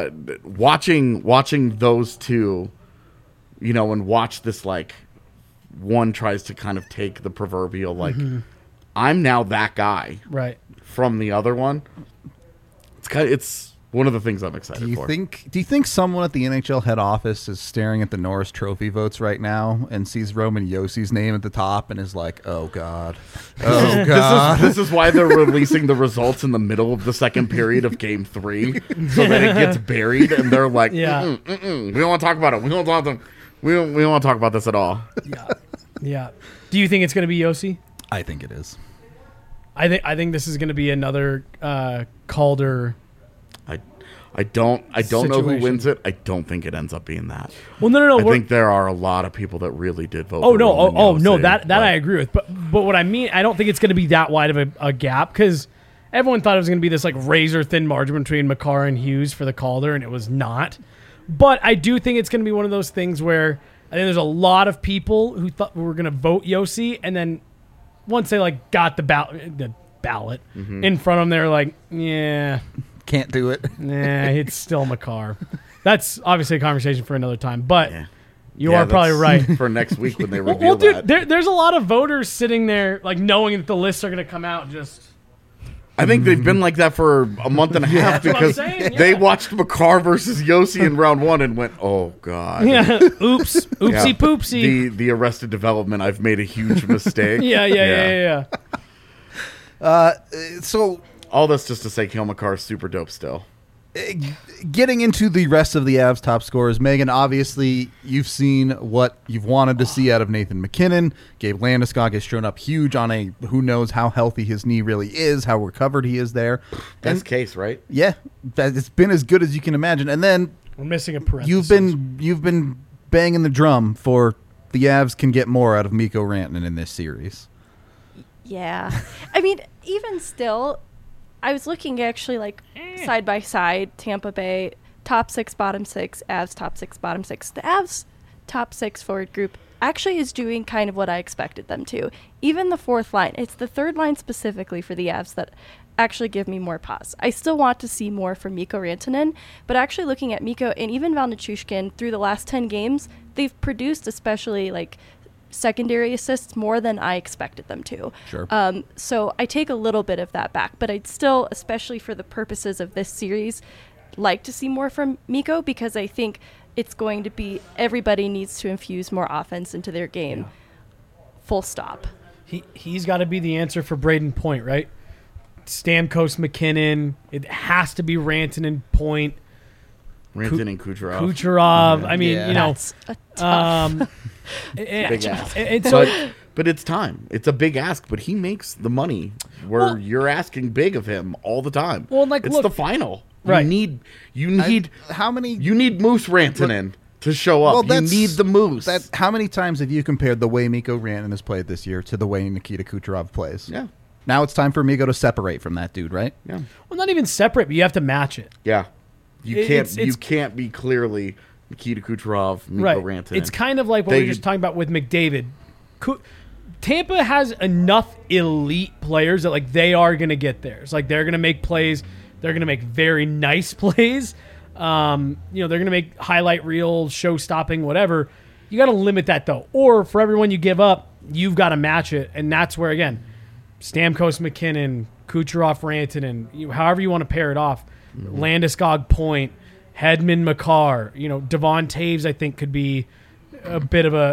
watching those two, and watch this, one tries to kind of take the proverbial, I'm now that guy Right. from the other one. It's one of the things I'm excited Do you for. think someone at the NHL head office is staring at the Norris Trophy votes right now and sees Roman Yossi's name at the top and is like, "Oh God, oh God"? This is why they're releasing the results in the middle of the second period of Game 3, so that it gets buried, and they're like, Yeah. we don't want to talk about it. We don't want to talk about this at all. Yeah. Do you think it's going to be Yossi? I think it is. I think this is going to be another Calder. I don't know who Situation. wins it. I don't think it ends up being that. Well, no. I think there are a lot of people that really did vote. Oh for no! Roman Oh no! Josi, That but I agree with. But what I mean, I don't think it's going to be that wide of a gap because everyone thought it was going to be this like razor thin margin between Makar and Hughes for the Calder, and it was not. But I do think it's going to be one of those things where I think there's a lot of people who thought were going to vote Yossi, and then once they like got the ballot in front of them, they're like, yeah. Can't do it. Nah, it's still Makar. That's obviously a conversation for another time, but Yeah. you Yeah, are probably that's right. for next week when they Well, reveal dude, that. there's a lot of voters sitting there, like knowing that the lists are going to come out. Just I think they've been like that for a month and a half That's what I'm because saying, they yeah. watched Makar versus Yossi in round 1 and went, "Oh God, yeah, oops, oopsie Yeah. poopsie. The Arrested Development. I've made a huge mistake." Yeah. So All this just to say, Cale Makar is super dope still. getting into the rest of the Avs top scorers, Megan, obviously you've seen what you've wanted to see out of Nathan McKinnon. Gabe Landeskog has shown up huge on a who knows how healthy his knee really is, how recovered he is there. Best And case, right? yeah, it's been as good as you can imagine. And then We're missing a parenthesis. you've been banging the drum for the Avs can get more out of Mikko Rantanen in this series. Yeah. I mean, even still, I was looking actually like side by side, Tampa Bay, top 6, bottom 6, Avs, top 6, bottom 6. The Avs top 6 forward group actually is doing kind of what I expected them to. Even the fourth line, it's the third line specifically for the Avs that actually give me more pause. I still want to see more from Mikko Rantanen, but actually looking at Mikko and even Val Nichushkin through the last 10 games, they've produced especially like secondary assists more than I expected them to. Sure. So I take a little bit of that back, but I'd still, especially for the purposes of this series, like to see more from Mikko because I think it's going to be everybody needs to infuse more offense into their game. Full stop. He's got to be the answer for Braden Point, right? Stamkos, McKinnon. It has to be Rantanen, Point, Rantanen, Kucherov. Kucherov. I mean, Yeah. you know, That's a tough. Big ask. and so But it's time. It's a big ask, but he makes the money where Well- you're asking big of him all the time. Well, like, it's look- the final. Right. You need How many? you need Moose Rantanen to show up. Well, You that's- need the Moose. How many times have you compared the way Mikko Rantanen has played this year to the way Nikita Kucherov plays? yeah. Now it's time for Mikko to separate from that dude, right? Yeah. well, not even separate, but you have to match it. Yeah. You It's- can't you can't be clearly Nikita Kucherov, Mikko Right. Rantanen. It's kind of like what we They- were just talking about with McDavid. Tampa has enough elite players that like they are going to get theirs. Like they're going to make plays. They're going to make very nice plays. They're going to make highlight reel, show stopping, whatever. You got to limit that though. Or for everyone you give up, you've got to match it. And that's where, again, Stamkos, McKinnon, Kucherov, Rantanen, however you want to pair it off. Landeskog, Point, Hedman, Makar, Devon Taves, I think could be a bit of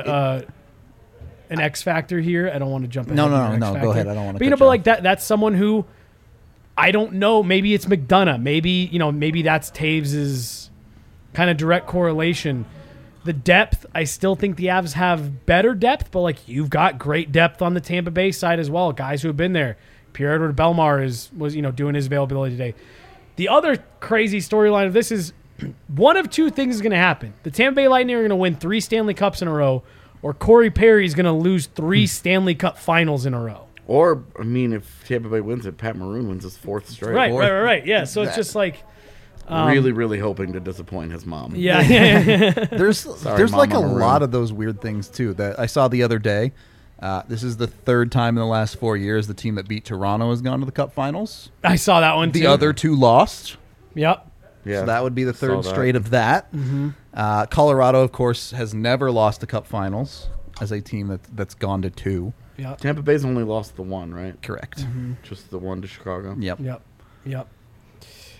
an X factor here. I don't want to jump ahead. No, in no, your no, X no, go factor. ahead. I don't wanna But cut but you like that's someone who I don't know. Maybe it's McDonough. Maybe that's Taves's kind of direct correlation. The depth, I still think the Avs have better depth, but like you've got great depth on the Tampa Bay side as well. Guys who have been there. Pierre-Edouard Bellemare was doing his availability today. The other crazy storyline of this is one of two things is going to happen. The Tampa Bay Lightning are going to win 3 Stanley Cups in a row, or Corey Perry is going to lose 3 Stanley Cup finals in a row. Or I mean, if Tampa Bay wins it, Pat Maroon wins his 4th straight. Right. Yeah, so it's just like, really hoping to disappoint his mom. yeah. There's like a Mama Maroon. lot of those weird things too that I saw the other day. This is the 3rd time in the last 4 years the team that beat Toronto has gone to the Cup Finals. I saw that one too. The other 2 lost. Yep. Yeah. So that would be the Saw 3rd that. straight of that. Colorado, of course, has never lost the Cup Finals as a team that's gone to 2. Yep. Tampa Bay's only lost the one, right? Correct. Just the one to Chicago. Yep. Yep.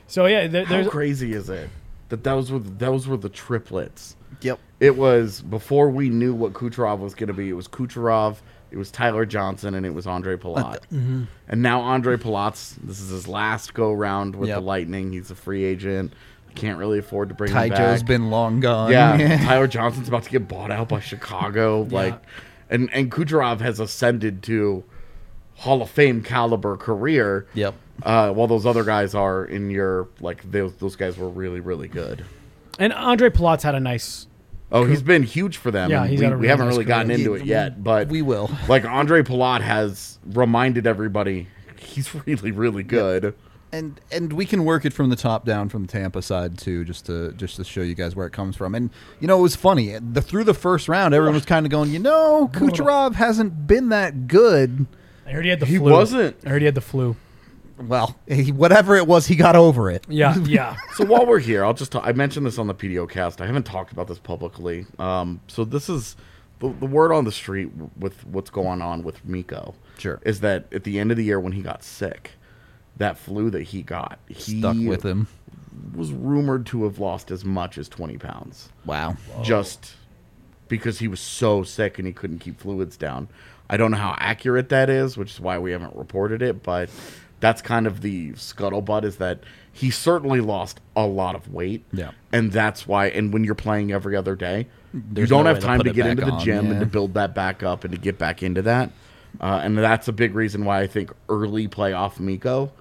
So yeah, How there's crazy is it that those were the triplets? Yep. It was before we knew what Kucherov was going to be. It was Kucherov, it was Tyler Johnson, and it was Andre Palat. And now Andre Palat's, this is his last go round with the Lightning. He's a free agent. Can't really afford to bring him back. Tyjo's been long gone. Yeah, Tyler Johnson's about to get bought out by Chicago. And Kucherov has ascended to Hall of Fame caliber career. Yep. While those other guys are in your those guys were really, really good. and Andre Palat's had a nice. Oh, he's been huge for them. Yeah, and he's we, had a we really haven't nice really gotten career. into it yet, but we will. Like Andre Palat has reminded everybody he's really, really good. And we can work it from the top down from the Tampa side too, just to show you guys where it comes from. And it was funny. Through the first round, everyone was kind of going, Kucherov hasn't been that good. I heard he had the He flu. wasn't. I heard he had the flu. Well, whatever it was, he got over it. Yeah, yeah. So while we're here, I mentioned this on the PDO cast. I haven't talked about this publicly. So this is the word on the street with what's going on with Mikko. Sure. Is that at the end of the year when he got sick, that flu that he got, he Stuck with him. was rumored to have lost as much as 20 pounds. Wow. Just because he was so sick and he couldn't keep fluids down. I don't know how accurate that is, which is why we haven't reported it, but that's kind of the scuttlebutt, is that he certainly lost a lot of weight. Yeah. And that's why, and when you're playing every other day, There's you don't no have way to time put to it get back into the on, gym yeah. and to build that back up and to get back into that. And that's a big reason why I think early playoff Mikko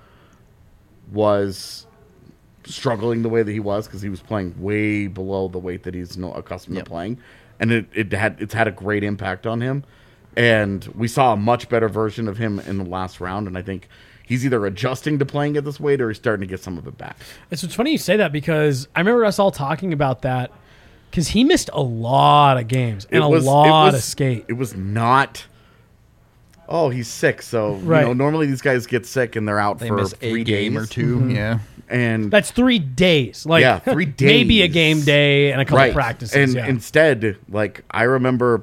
was struggling the way that he was, because he was playing way below the weight that he's accustomed to playing. And it's had a great impact on him. And we saw a much better version of him in the last round, and I think he's either adjusting to playing at this weight or he's starting to get some of it back. It's funny you say that, because I remember us all talking about that, because he missed a lot of games and a lot of skate. It was not, he's sick, so Right. normally these guys get sick and they're out They for miss 3 a game days or 2. Yeah. And That's 3 days. Like, Yeah, 3 days. Maybe a game day and a couple practices. And yeah. instead, like, I remember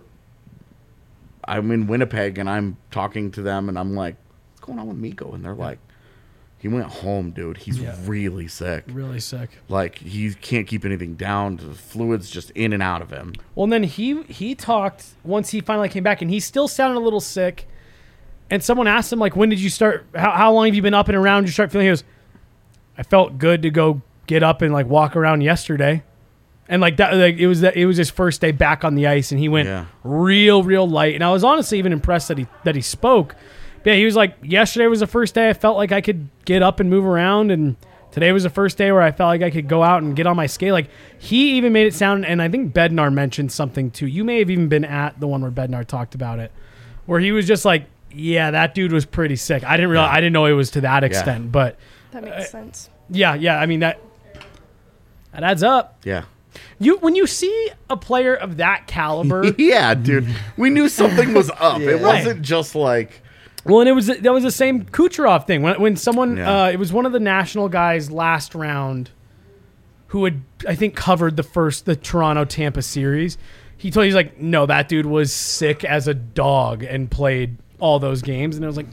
I'm in Winnipeg and I'm talking to them and I'm like, what's going on with Mikko? And they're like, he went home, dude. He's really sick. Really sick. Like, he can't keep anything down. The fluid's just in and out of him. Well, and then he talked once he finally came back, and he still sounded a little sick. And someone asked him, like, when did you start? How long have you been up and around? Did you start feeling? He goes, I felt good to go get up and like walk around yesterday. And like that, like it was his first day back on the ice, and he went real light. And I was honestly even impressed that he spoke. But yeah, he was like, yesterday was the first day I felt like I could get up and move around, and today was the first day where I felt like I could go out and get on my skate. Like, he even made it sound, and I think Bednar mentioned something too. You may have even been at the one where Bednar talked about it, where he was just like, yeah, that dude was pretty sick. I didn't realize, I didn't know it was to that extent, but That makes sense. yeah. I mean, that adds up. Yeah. When you see a player of that caliber, Yeah, dude. We knew something was up. It Right. wasn't just like, well, and that was the same Kucherov thing. When someone, Yeah. it was one of the national guys last round who had, I think, covered the Toronto Tampa series. He's like, no, that dude was sick as a dog and played all those games. And I was like,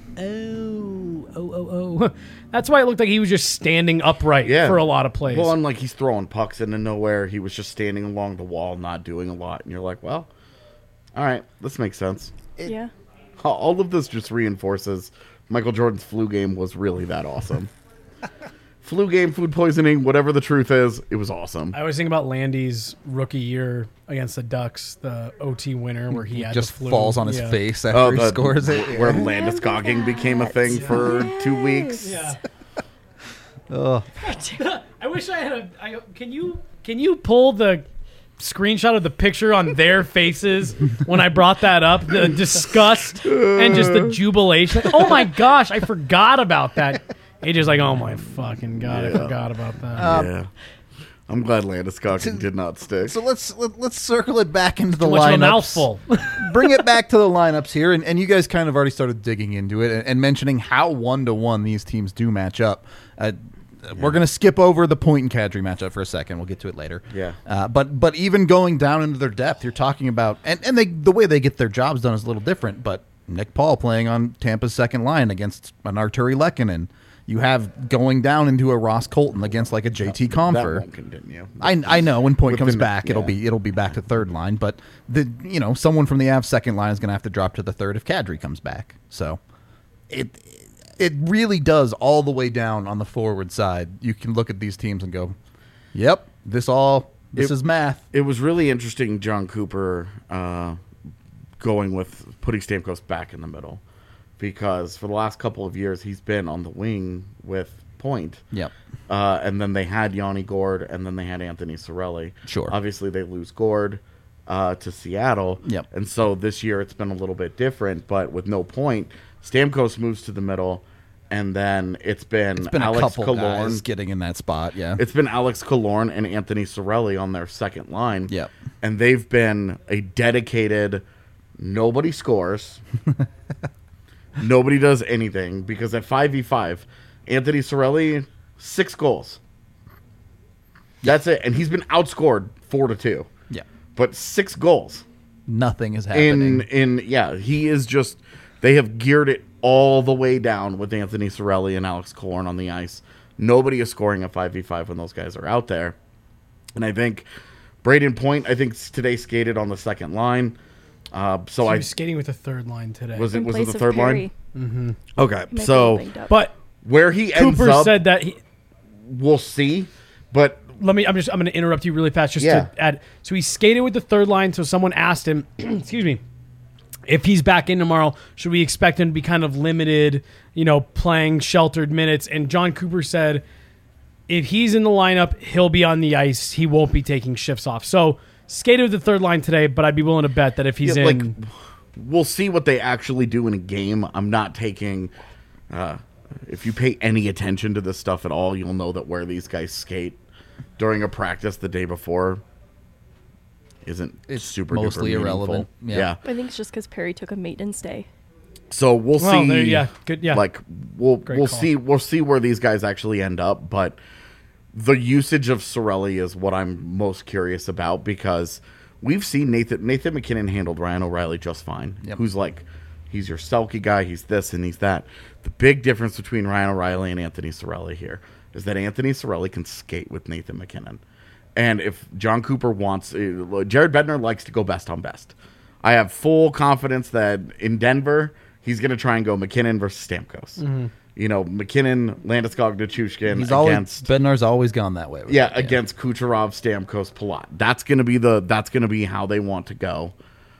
oh. That's why it looked like he was just standing upright for a lot of plays. Well, and like he's throwing pucks into nowhere. He was just standing along the wall, not doing a lot. And you're like, well, all right, this makes sense. Yeah. All of this just reinforces Michael Jordan's flu game was really that awesome. Flu game, food poisoning, whatever the truth is, it was awesome. I always think about Landy's rookie year against the Ducks, the OT winner, where he had Just the flu. falls on his face after he scores it. Where Landeskoging became a thing for 2 weeks. Yeah. Oh, I wish I had can you pull the screenshot of the picture on their faces when I brought that up? The disgust and just the jubilation. Oh my gosh, I forgot about that. AJ's like, oh my fucking god, I forgot about that. Yeah. I'm glad Landeskoging did not stick. so let's circle it back into the Too much of a lineups. mouthful. Bring it back to the lineups here, and you guys kind of already started digging into it and mentioning how 1-to-1 these teams do match up. We're going to skip over the Point and Kadri matchup for a second. We'll get to it later. Yeah. But even going down into their depth, you're talking about, and the way they get their jobs done is a little different, but Nick Paul playing on Tampa's second line against an Arturi Lehkonen. you have going down into a Ross Colton against like a JT That Compher. won't continue. I know when Point comes within- back, it'll yeah. be back to third line, but someone from the Avs second line is going to have to drop to the third if Kadri comes back. So it really does all the way down on the forward side. You can look at these teams and go, "Yep, this is math." It was really interesting, John Cooper going with putting Stamkos back in the middle, because for the last couple of years he's been on the wing with Point. Yep. And then they had Yanni Gord, and then they had Anthony Cirelli. Sure. Obviously, they lose Gord to Seattle. Yep. And so this year it's been a little bit different, but with no Point, Stamkos moves to the middle, and then it's been A Alex couple Killorn. guys getting in that spot, yeah. It's been Alex Killorn and Anthony Cirelli on their second line. Yep. And they've been a dedicated, nobody scores. Nobody does anything, because at 5v5, Anthony Cirelli, 6 goals. That's it. And he's been outscored 4-2. Yeah. But 6 goals. Nothing is happening. He is just, they have geared it all the way down with Anthony Cirelli and Alex Killorn on the ice. Nobody is scoring a 5v5 when those guys are out there. And I think Braden Point, today skated on the second line. He was skating with the third line today. Was it In the place of third Perry. line? Okay, He might be so banged up. But where he ends Cooper up, said that we'll see. But I'm going to interrupt you really fast just Yeah. to add. So he skated with the third line. So someone asked him, excuse me, if he's back in tomorrow, should we expect him to be kind of limited, playing sheltered minutes? And John Cooper said, if he's in the lineup, he'll be on the ice. He won't be taking shifts off. So skated with the third line today, but I'd be willing to bet that if he's in, we'll see what they actually do in a game. I'm not taking. If you pay any attention to this stuff at all, you'll know that where these guys skate during a practice the day before isn't It's super mostly duper irrelevant. meaningful. Yeah. I think it's just because Perry took a maintenance day. So we'll well, see. yeah, good, yeah. Like we'll Great call. see where these guys actually end up, but the usage of Cirelli is what I'm most curious about, because we've seen Nathan McKinnon handled Ryan O'Reilly just fine. Yep. Who's like, he's your Selke guy, he's this and he's that. The big difference between Ryan O'Reilly and Anthony Cirelli here is that Anthony Cirelli can skate with Nathan McKinnon. And if John Cooper wants, Jared Bednar likes to go best on best. I have full confidence that in Denver, he's going to try and go McKinnon versus Stamkos. Mm-hmm. McKinnon, Landeskog, Nichushkin He's always against Bednar's always gone that way. With yeah, it, against Kucherov, Stamkos, Palat. That's gonna be how they want to go.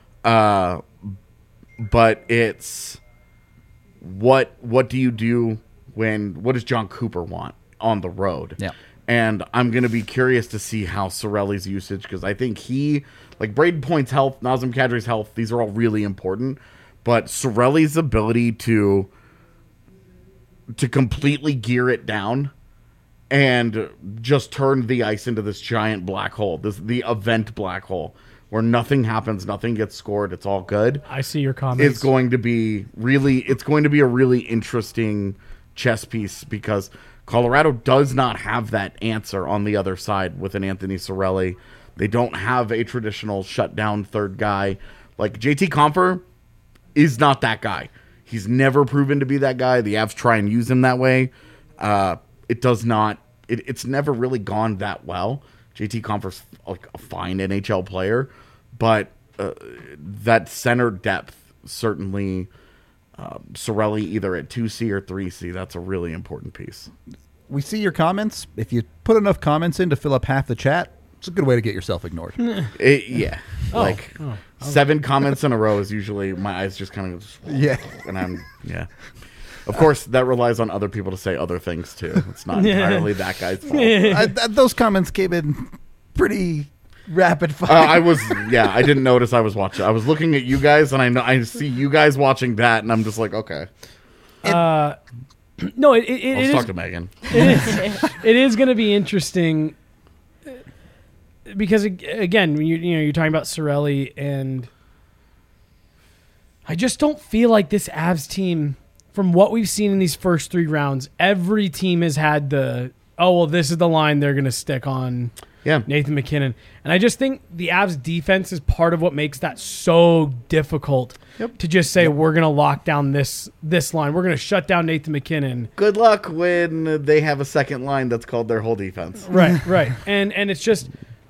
But it's what do you do what does John Cooper want on the road? Yeah. And I'm gonna be curious to see how Cirelli's usage, because I think Braden Point's health, Nazem Kadri's health, these are all really important. But Cirelli's ability to completely gear it down and just turn the ice into this giant black hole, the event black hole, where nothing happens, nothing gets scored, it's all good. I see your comments. It's going to be a really interesting chess piece, because Colorado does not have that answer on the other side with an Anthony Cirelli. They don't have a traditional shutdown third guy. Like JT Compher is not that guy. He's never proven to be that guy. The Avs try and use him that way. It does not. It's never really gone that well. JT Compher's like a fine NHL player, but that center depth certainly. Cirelli either at 2C or 3C. That's a really important piece. We see your comments. If you put enough comments in to fill up half the chat, it's a good way to get yourself ignored. Yeah. 7 comments in a row is usually my eyes just kind of Yeah. And of course that relies on other people to say other things too. It's not entirely that guy's fault. Those comments came in pretty rapid fire. I didn't notice I was watching. I was looking at you guys, and I see you guys watching that, and I'm just like, okay. No, Let's it talk is. to Megan. It is going to be interesting because again, you're talking about Cirelli, and I just don't feel like this Avs team, from what we've seen in these first 3 rounds, every team has had this is the line they're going to stick on. Yeah. Nathan McKinnon. And I just think the Avs defense is part of what makes that so difficult to just say, we're going to lock down this line. We're going to shut down Nathan McKinnon. Good luck when they have a second line that's called their whole defense. Right. And it's just,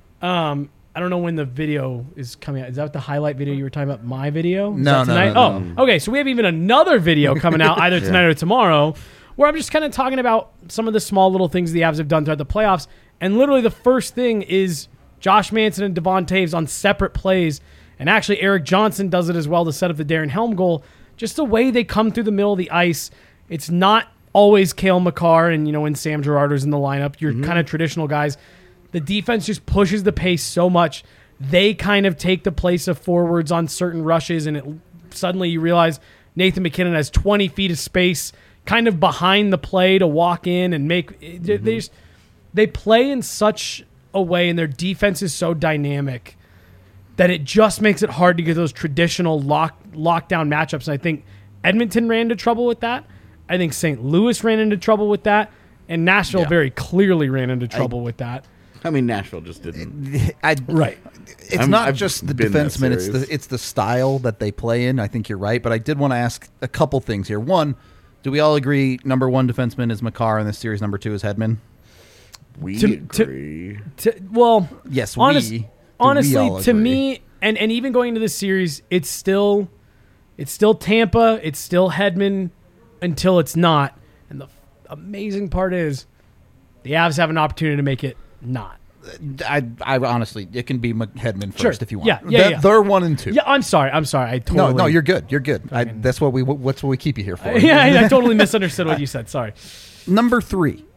I don't know when the video is coming out. Is that the highlight video you were talking about? My video? Is No, that no, tonight? no, no. Oh, okay. So we have even another video coming out either tonight or tomorrow where I'm just kind of talking about some of the small little things the Avs have done throughout the playoffs. And literally the first thing is Josh Manson and Devon Taves on separate plays. And actually Eric Johnson does it as well to set up the Darren Helm goal. Just the way they come through the middle of the ice. It's not always Cale Makar and, when Sam Girardo's in the lineup, your kind of traditional guys. The defense just pushes the pace so much. They kind of take the place of forwards on certain rushes, and suddenly you realize Nathan McKinnon has 20 feet of space kind of behind the play to walk in and make they play in such a way, and their defense is so dynamic that it just makes it hard to get those traditional lockdown matchups. And I think Edmonton ran into trouble with that. I think St. Louis ran into trouble with that. And Nashville very clearly ran into trouble with that. I mean, Nashville just didn't. Right. It's not just the defensemen; it's the style that they play in. I think you're right, but I did want to ask a couple things here. One, do we all agree number one defenseman is Makar in this series? Number two is Hedman. We agree. Well, yes, honestly, to me, and even going into this series, it's still Tampa, it's still Hedman until it's not. And the amazing part is the Avs have an opportunity to make it not. I honestly, it can be Hedman first if you want. Yeah. They're 1 and 2. Yeah, I'm sorry. I totally. No, you're good. You're good. That's what we keep you here for. I totally misunderstood what you said. Sorry. Number 3.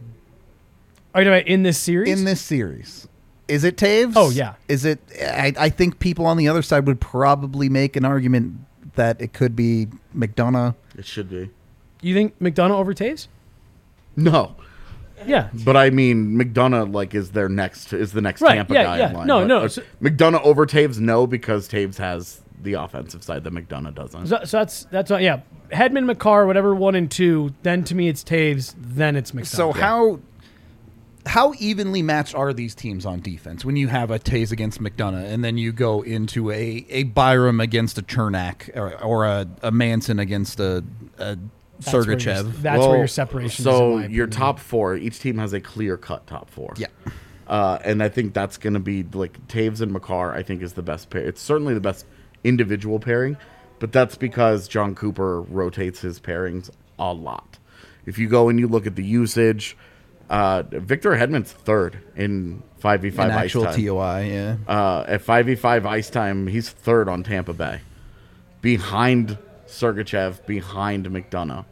Are you talking about in this series? In this series. Is it Taves? Oh, yeah. Is it? I think people on the other side would probably make an argument that it could be McDonough. It should be. You think McDonough over Taves? No. Yeah. But I mean, McDonough is the next Tampa guy in line. No. McDonough over Taves, no, because Taves has the offensive side that McDonough doesn't. So that's Hedman, Makar, whatever 1 and 2. Then to me it's Taves. Then it's McDonough. So how evenly matched are these teams on defense when you have a Taves against McDonough and then you go into a Byram against a Chernak or a Manson against a Sergachev? That's where your separation is. So your top 4, each team has a clear-cut top 4. Yeah. And I think that's going to be Taves and Makar, I think, is the best pair. It's certainly the best individual pairing, but that's because John Cooper rotates his pairings a lot. If you go and you look at the usage, Victor Hedman's third in 5v5 An ice actual time. TOI, yeah. At 5v5 ice time, he's third on Tampa Bay, behind Sergachev, behind McDonough.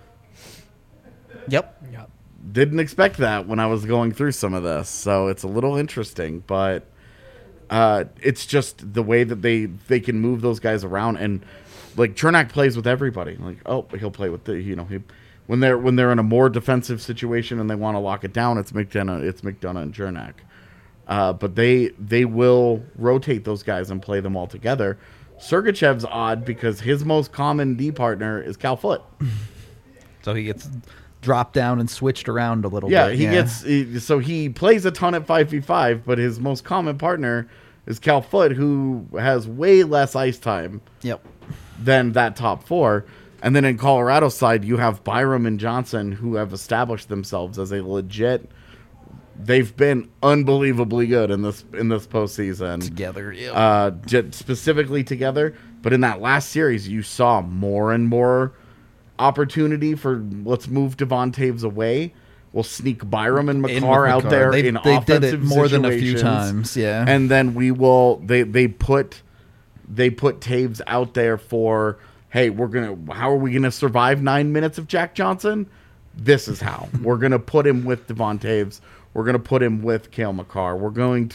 Yep. Didn't expect that when I was going through some of this, so it's a little interesting, but it's just the way that they can move those guys around, and Chernak plays with everybody. He'll play with when they're in a more defensive situation and they want to lock it down, it's McDonough and Chernak. But they will rotate those guys and play them all together. Sergachev's odd because his most common D partner is Cal Foote. So he gets dropped down and switched around a little bit. He plays a ton at 5v5, but his most common partner is Cal Foote, who has way less ice time than that top 4. And then in Colorado's side, you have Byram and Johnson, who have established themselves as a legit. They've been unbelievably good in this postseason together, specifically together. But in that last series, you saw more and more opportunity for let's move Devon Taves away. We'll sneak Byram and Makar out there in offensive did it more than a few situations. times, yeah. And then we will. They put Taves out there for. Hey, how are we gonna survive 9 minutes of Jack Johnson? This is how. We're gonna put him with Devon Taves. We're gonna put him with Cale Makar. We're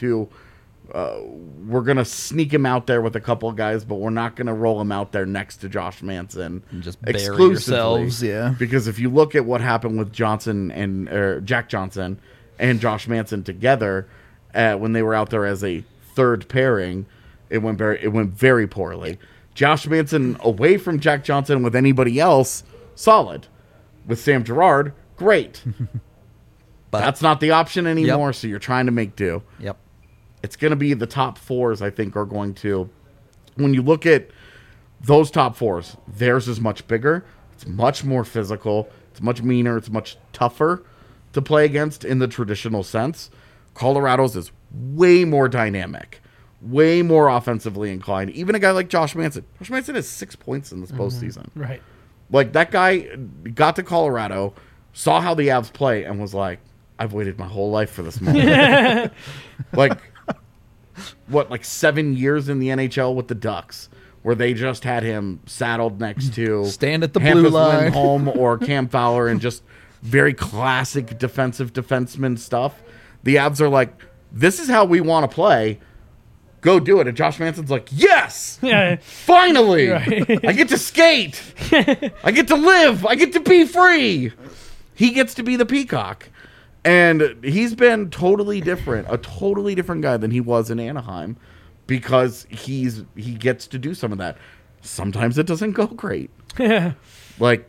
gonna sneak him out there with a couple of guys, but we're not gonna roll him out there next to Josh Manson. And just bury yourselves, yeah. Because if you look at what happened with Johnson and Jack Johnson and Josh Manson together, when they were out there as a third pairing, it went very poorly. Josh Manson away from Jack Johnson with anybody else, solid. With Sam Girard, great. But that's not the option anymore, so you're trying to make do. Yep. It's going to be the top fours, I think, are going to... When you look at those top fours, theirs is much bigger. It's much more physical. It's much meaner. It's much tougher to play against in the traditional sense. Colorado's is way more dynamic, way more offensively inclined. Even a guy like Josh Manson. Josh Manson has 6 points in this postseason. Right. Like, that guy got to Colorado, saw how the Avs play, and was like, I've waited my whole life for this moment. Like, 7 years in the NHL with the Ducks, where they just had him saddled next to Stand at the Hampus blue line. Lindholm or Cam Fowler and just very classic defensive defenseman stuff. The Avs are like, this is how we want to play. Go do it. And Josh Manson's like, yes! Yeah. Finally! Right. I get to skate! I get to live! I get to be free! He gets to be the peacock. And he's been totally different, a totally different guy than he was in Anaheim, because he gets to do some of that. Sometimes it doesn't go great. Like,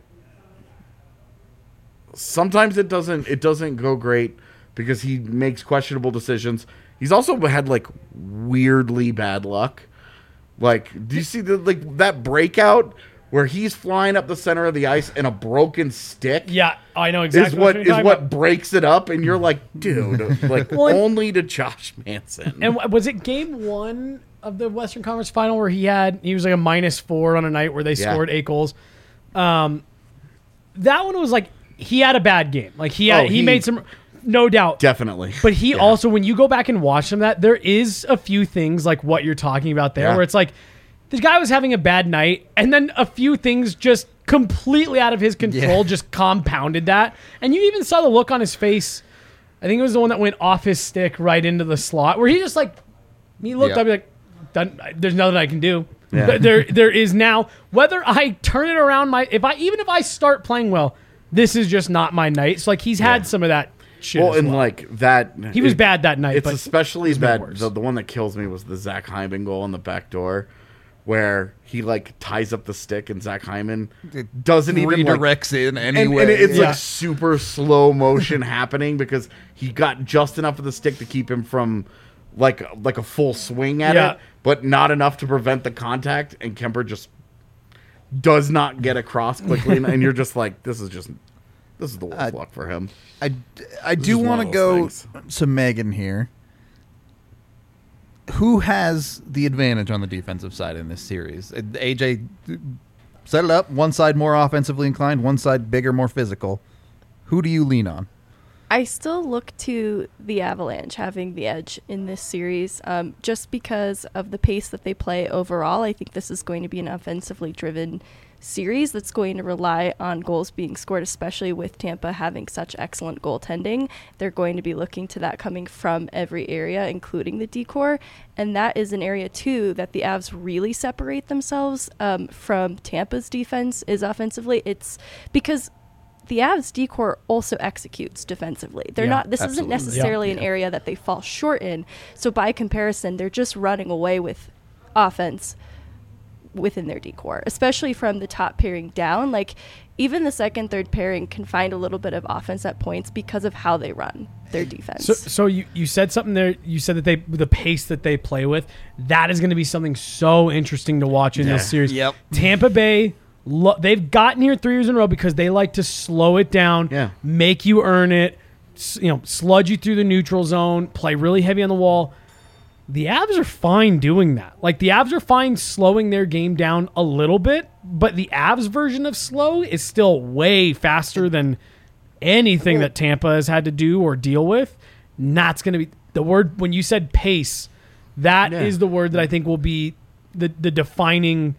sometimes it doesn't go great because he makes questionable decisions. He's also had weirdly bad luck. Like, do you see that breakout where he's flying up the center of the ice and a broken stick? Yeah, I know exactly Is what breaks it up, and you're like, dude, only to Josh Manson. And was it game 1 of the Western Conference Final where he was like a -4 on a night where they scored 8 goals? That one was like, he had a bad game. Like he made some, no doubt. Definitely. But he also, when you go back and watch some of that, there is a few things like what you're talking about there, where it's like, this guy was having a bad night, and then a few things just completely out of his control just compounded that. And you even saw the look on his face. I think it was the one that went off his stick right into the slot, where he just he looked up, like, there's nothing I can do. Yeah. There is now, whether I turn it around, even if I start playing well, this is just not my night. So he's had some of that shit. Well, and that he was bad that night. It's especially bad. The one that kills me was the Zach Hyman goal on the back door, where he ties up the stick and Zach Hyman doesn't even redirects in anyway. And it's super slow motion happening because he got just enough of the stick to keep him from like a full swing at it, but not enough to prevent the contact. And Kemper just does not get across quickly, and you're just like, this is the worst luck for him. I do want to go to Megan here. Who has the advantage on the defensive side in this series? AJ, set it up. One side more offensively inclined, one side bigger, more physical. Who do you lean on? I still look to the Avalanche having the edge in this series, just because of the pace that they play overall. I think this is going to be an offensively driven series that's going to rely on goals being scored, especially with Tampa having such excellent goaltending. They're going to be looking to that coming from every area, including the D-core. And that is an area, too, that the Avs really separate themselves from Tampa's defense is offensively. It's because the Avs D-core also executes defensively. They're not. This isn't necessarily an area that they fall short in. So by comparison, they're just running away with offense within their D-core, especially from the top pairing down. Even the second, third pairing can find a little bit of offense at points because of how they run their defense. So you said something there. You said that the pace that they play with, that is going to be something so interesting to watch in this series. Yep. Tampa Bay, they've gotten here 3 years in a row because they like to slow it down, make you earn it, sludge you through the neutral zone, play really heavy on the wall. The Avs are fine doing that. The Avs are fine slowing their game down a little bit, but the Avs version of slow is still way faster than anything that Tampa has had to do or deal with. And that's going to be the word. When you said pace, that is the word that I think will be the defining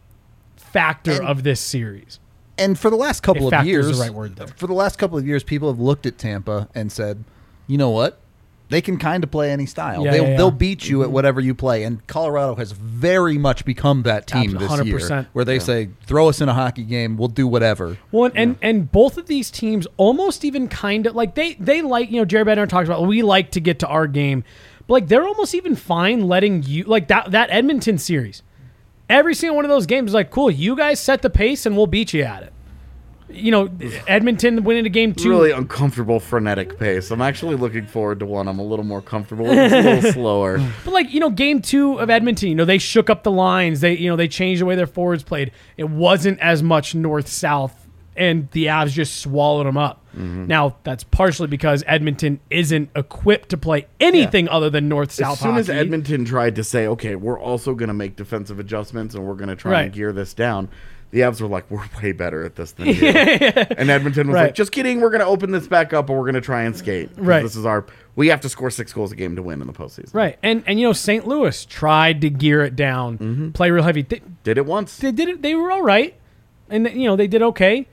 factor of this series. And for the last couple of years, is the right word there. For the last couple of years, people have looked at Tampa and said, you know what? They can kind of play any style. They'll beat you at whatever you play. And Colorado has very much become that team this 100%. year, where they say, throw us in a hockey game, we'll do whatever. Well, and both of these teams almost even kind of they Jared Bednar talks about, we like to get to our game, but they're almost even fine letting you that Edmonton series. Every single one of those games is cool, you guys set the pace and we'll beat you at it. Edmonton winning a game 2. Really uncomfortable, frenetic pace. I'm actually looking forward to one I'm a little more comfortable with. It's a little slower. But game 2 of Edmonton, they shook up the lines. They changed the way their forwards played. It wasn't as much north-south, and the Avs just swallowed them up. Mm-hmm. Now, that's partially because Edmonton isn't equipped to play anything other than north-south As soon hockey. as Edmonton tried to say, okay, we're also going to make defensive adjustments and we're going to try and gear this down, the Avs were like, we're way better at this than you. And Edmonton was like, just kidding, we're going to open this back up and we're going to try and skate. Right. This is we have to score 6 goals a game to win in the postseason. Right. And St. Louis tried to gear it down, play real heavy. Did it once. They did it. They were all right. And, they did okay.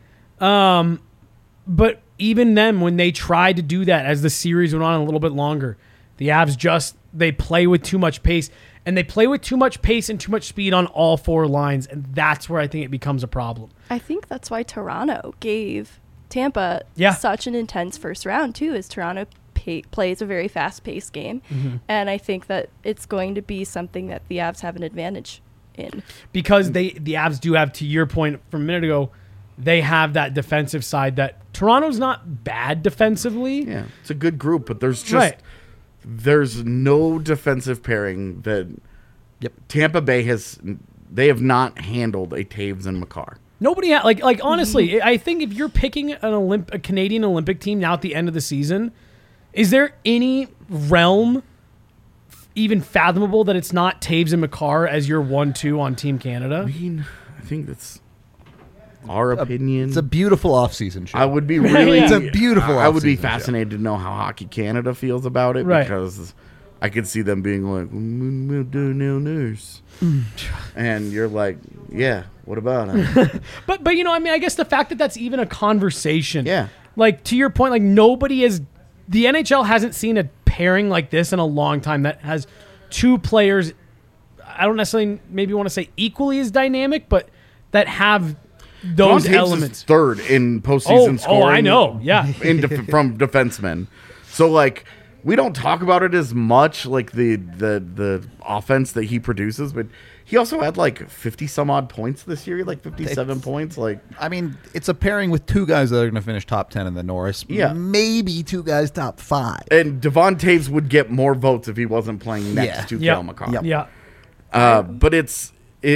But even then, when they tried to do that as the series went on a little bit longer, the Avs they play with too much pace. And they play with too much pace and too much speed on all 4 lines, and that's where I think it becomes a problem. I think that's why Toronto gave Tampa such an intense first round, too, is Toronto plays a very fast-paced game. Mm-hmm. And I think that it's going to be something that the Avs have an advantage in. Because the Avs do have, to your point from a minute ago, they have that defensive side that Toronto's not bad defensively. Yeah, it's a good group, but there's just... Right. There's no defensive pairing that Tampa Bay they have not handled a Taves and Makar. Nobody honestly, I think if you're picking a Canadian Olympic team now at the end of the season, is there any realm even fathomable that it's not Taves and Makar as your 1-2 on Team Canada? I mean, I think that's our opinion. It's a beautiful offseason show. I would be really... It's a beautiful I would be offseason fascinated to know how Hockey Canada feels about it, because I could see them being like, we'll do no news. And you're like, yeah, what about it? but I guess the fact that that's even a conversation. Yeah. Like, to your point, the NHL hasn't seen a pairing like this in a long time that has 2 players, I don't necessarily maybe want to say equally as dynamic, but that have those elements. Is third in postseason scoring. Oh, I know. Yeah. From defensemen. So, we don't talk about it as much, the offense that he produces, but he also had 50 some odd points this year, 57 points. I mean, it's a pairing with 2 guys that are going to finish top 10 in the Norris. Yeah. Maybe 2 guys top 5. And Devon Taves would get more votes if he wasn't playing next to Cale Makar. Yep. Yeah. But it's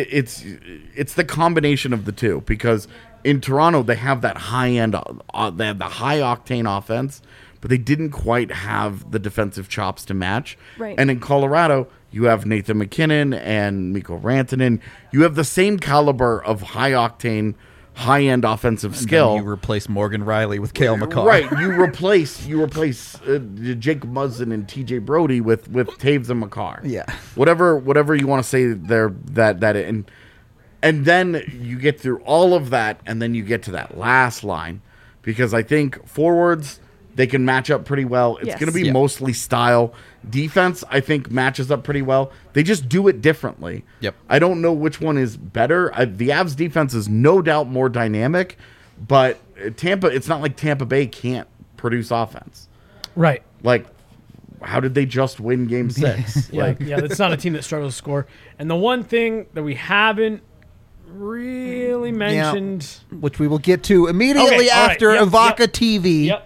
the combination of the two, because in Toronto they have that high end, they have the high octane offense, but they didn't quite have the defensive chops to match. Right. And in Colorado, you have Nathan McKinnon and Mikko Rantanen. You have the same caliber of high octane, high end offensive skill. You replace Morgan Riley with Cale Makar. Right. You replace Jake Muzzin and TJ Brody with Taves and Makar. Yeah. Whatever you want to say there, and then you get through all of that, and then you get to that last line, because I think forwards, they can match up pretty well. It's going to be mostly style. Defense, I think, matches up pretty well. They just do it differently. Yep. I don't know which one is better. The Avs defense is no doubt more dynamic, but it's not like Tampa Bay can't produce offense. Right. How did they just win Game 6? Yeah, it's not a team that struggles to score. And the one thing that we haven't really mentioned, which we will get to immediately after Evoca TV. Yep.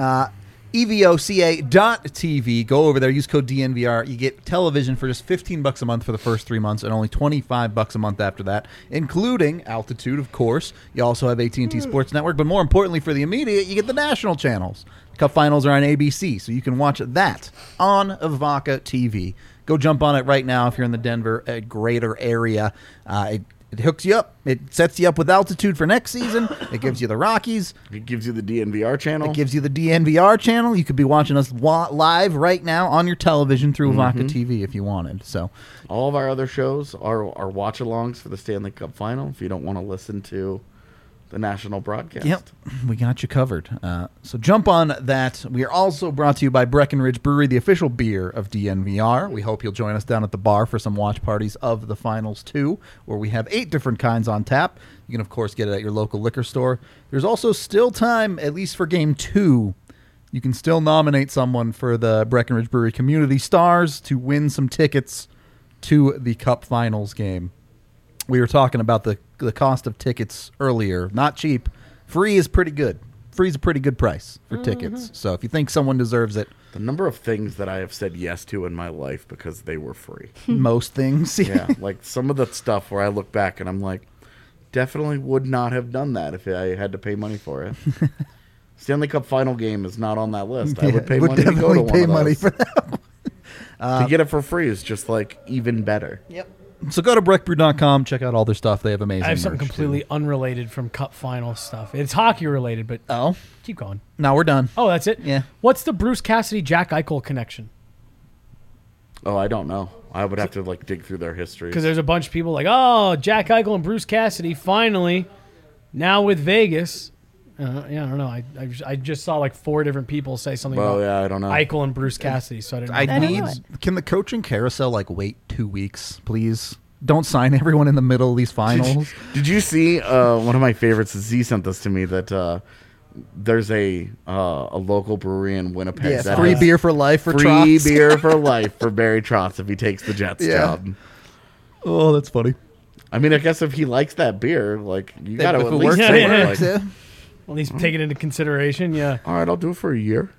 evoca.tv. Go over there, use code DNVR. You get television for just $15 a month for the first 3 months, and only $25 a month after that, including Altitude, of course. You also have AT&T Sports Network, but more importantly for the immediate, you get the national channels. The Cup Finals are on ABC, so you can watch that on Evoca TV. Go jump on it right now if you're in the Denver greater area. It hooks you up. It sets you up with Altitude for next season. It gives you the Rockies. It gives you the DNVR channel. It gives you the DNVR channel. You could be watching us live right now on your television through Evoca TV if you wanted. So, all of our other shows are watch-alongs for the Stanley Cup Final if you don't want to listen to the national broadcast. Yep, we got you covered. So jump on that. We are also brought to you by Breckenridge Brewery, the official beer of DNVR. We hope you'll join us down at the bar for some watch parties of the finals too, where we have 8 different kinds on tap. You can, of course, get it at your local liquor store. There's also still time, at least for Game 2. You can still nominate someone for the Breckenridge Brewery Community Stars to win some tickets to the Cup Finals game. We were talking about the cost of tickets earlier. Not cheap. Free is pretty good. Free is a pretty good price for tickets. So if you think someone deserves it, The number of things that I have said yes to in my life because they were free. most things. Yeah, like some of the stuff where I look back and I'm like, definitely would not have done that if I had to pay money for it. Stanley Cup final game is not on that list. I would pay money to go to one of those. for that. To get it for free is just like even better. Yep. So go to breckbrew.com, check out all their stuff. They have amazing I have something merch, completely unrelated from Cup final stuff. It's hockey related, but too. Oh, keep going. now we're done. Oh, that's it? Yeah. What's the Bruce Cassidy, Jack Eichel connection? Oh, I don't know. I would have to like dig through their history. Because there's a bunch of people like, oh, Jack Eichel and Bruce Cassidy finally, now with Vegas. Yeah, I don't know. I just saw like 4 different people say something Well, about yeah, I don't know. Eichel and Bruce Cassidy, so I didn't know. I don't need. know Can the coaching carousel like wait 2 weeks, please? Don't sign everyone in the middle of these finals. Did you see one of my favorites? Z sent this to me that there's a local brewery in Winnipeg. Yeah, that free has beer for life for free Trotz. beer for life for Barry Trotz if he takes the Jets Yeah. job. Oh, that's funny. I mean, I guess if he likes that beer, like you got to If at it least works, say it it, works. like, Yeah. Well, he's taking into consideration, yeah. all right, I'll do it for a year.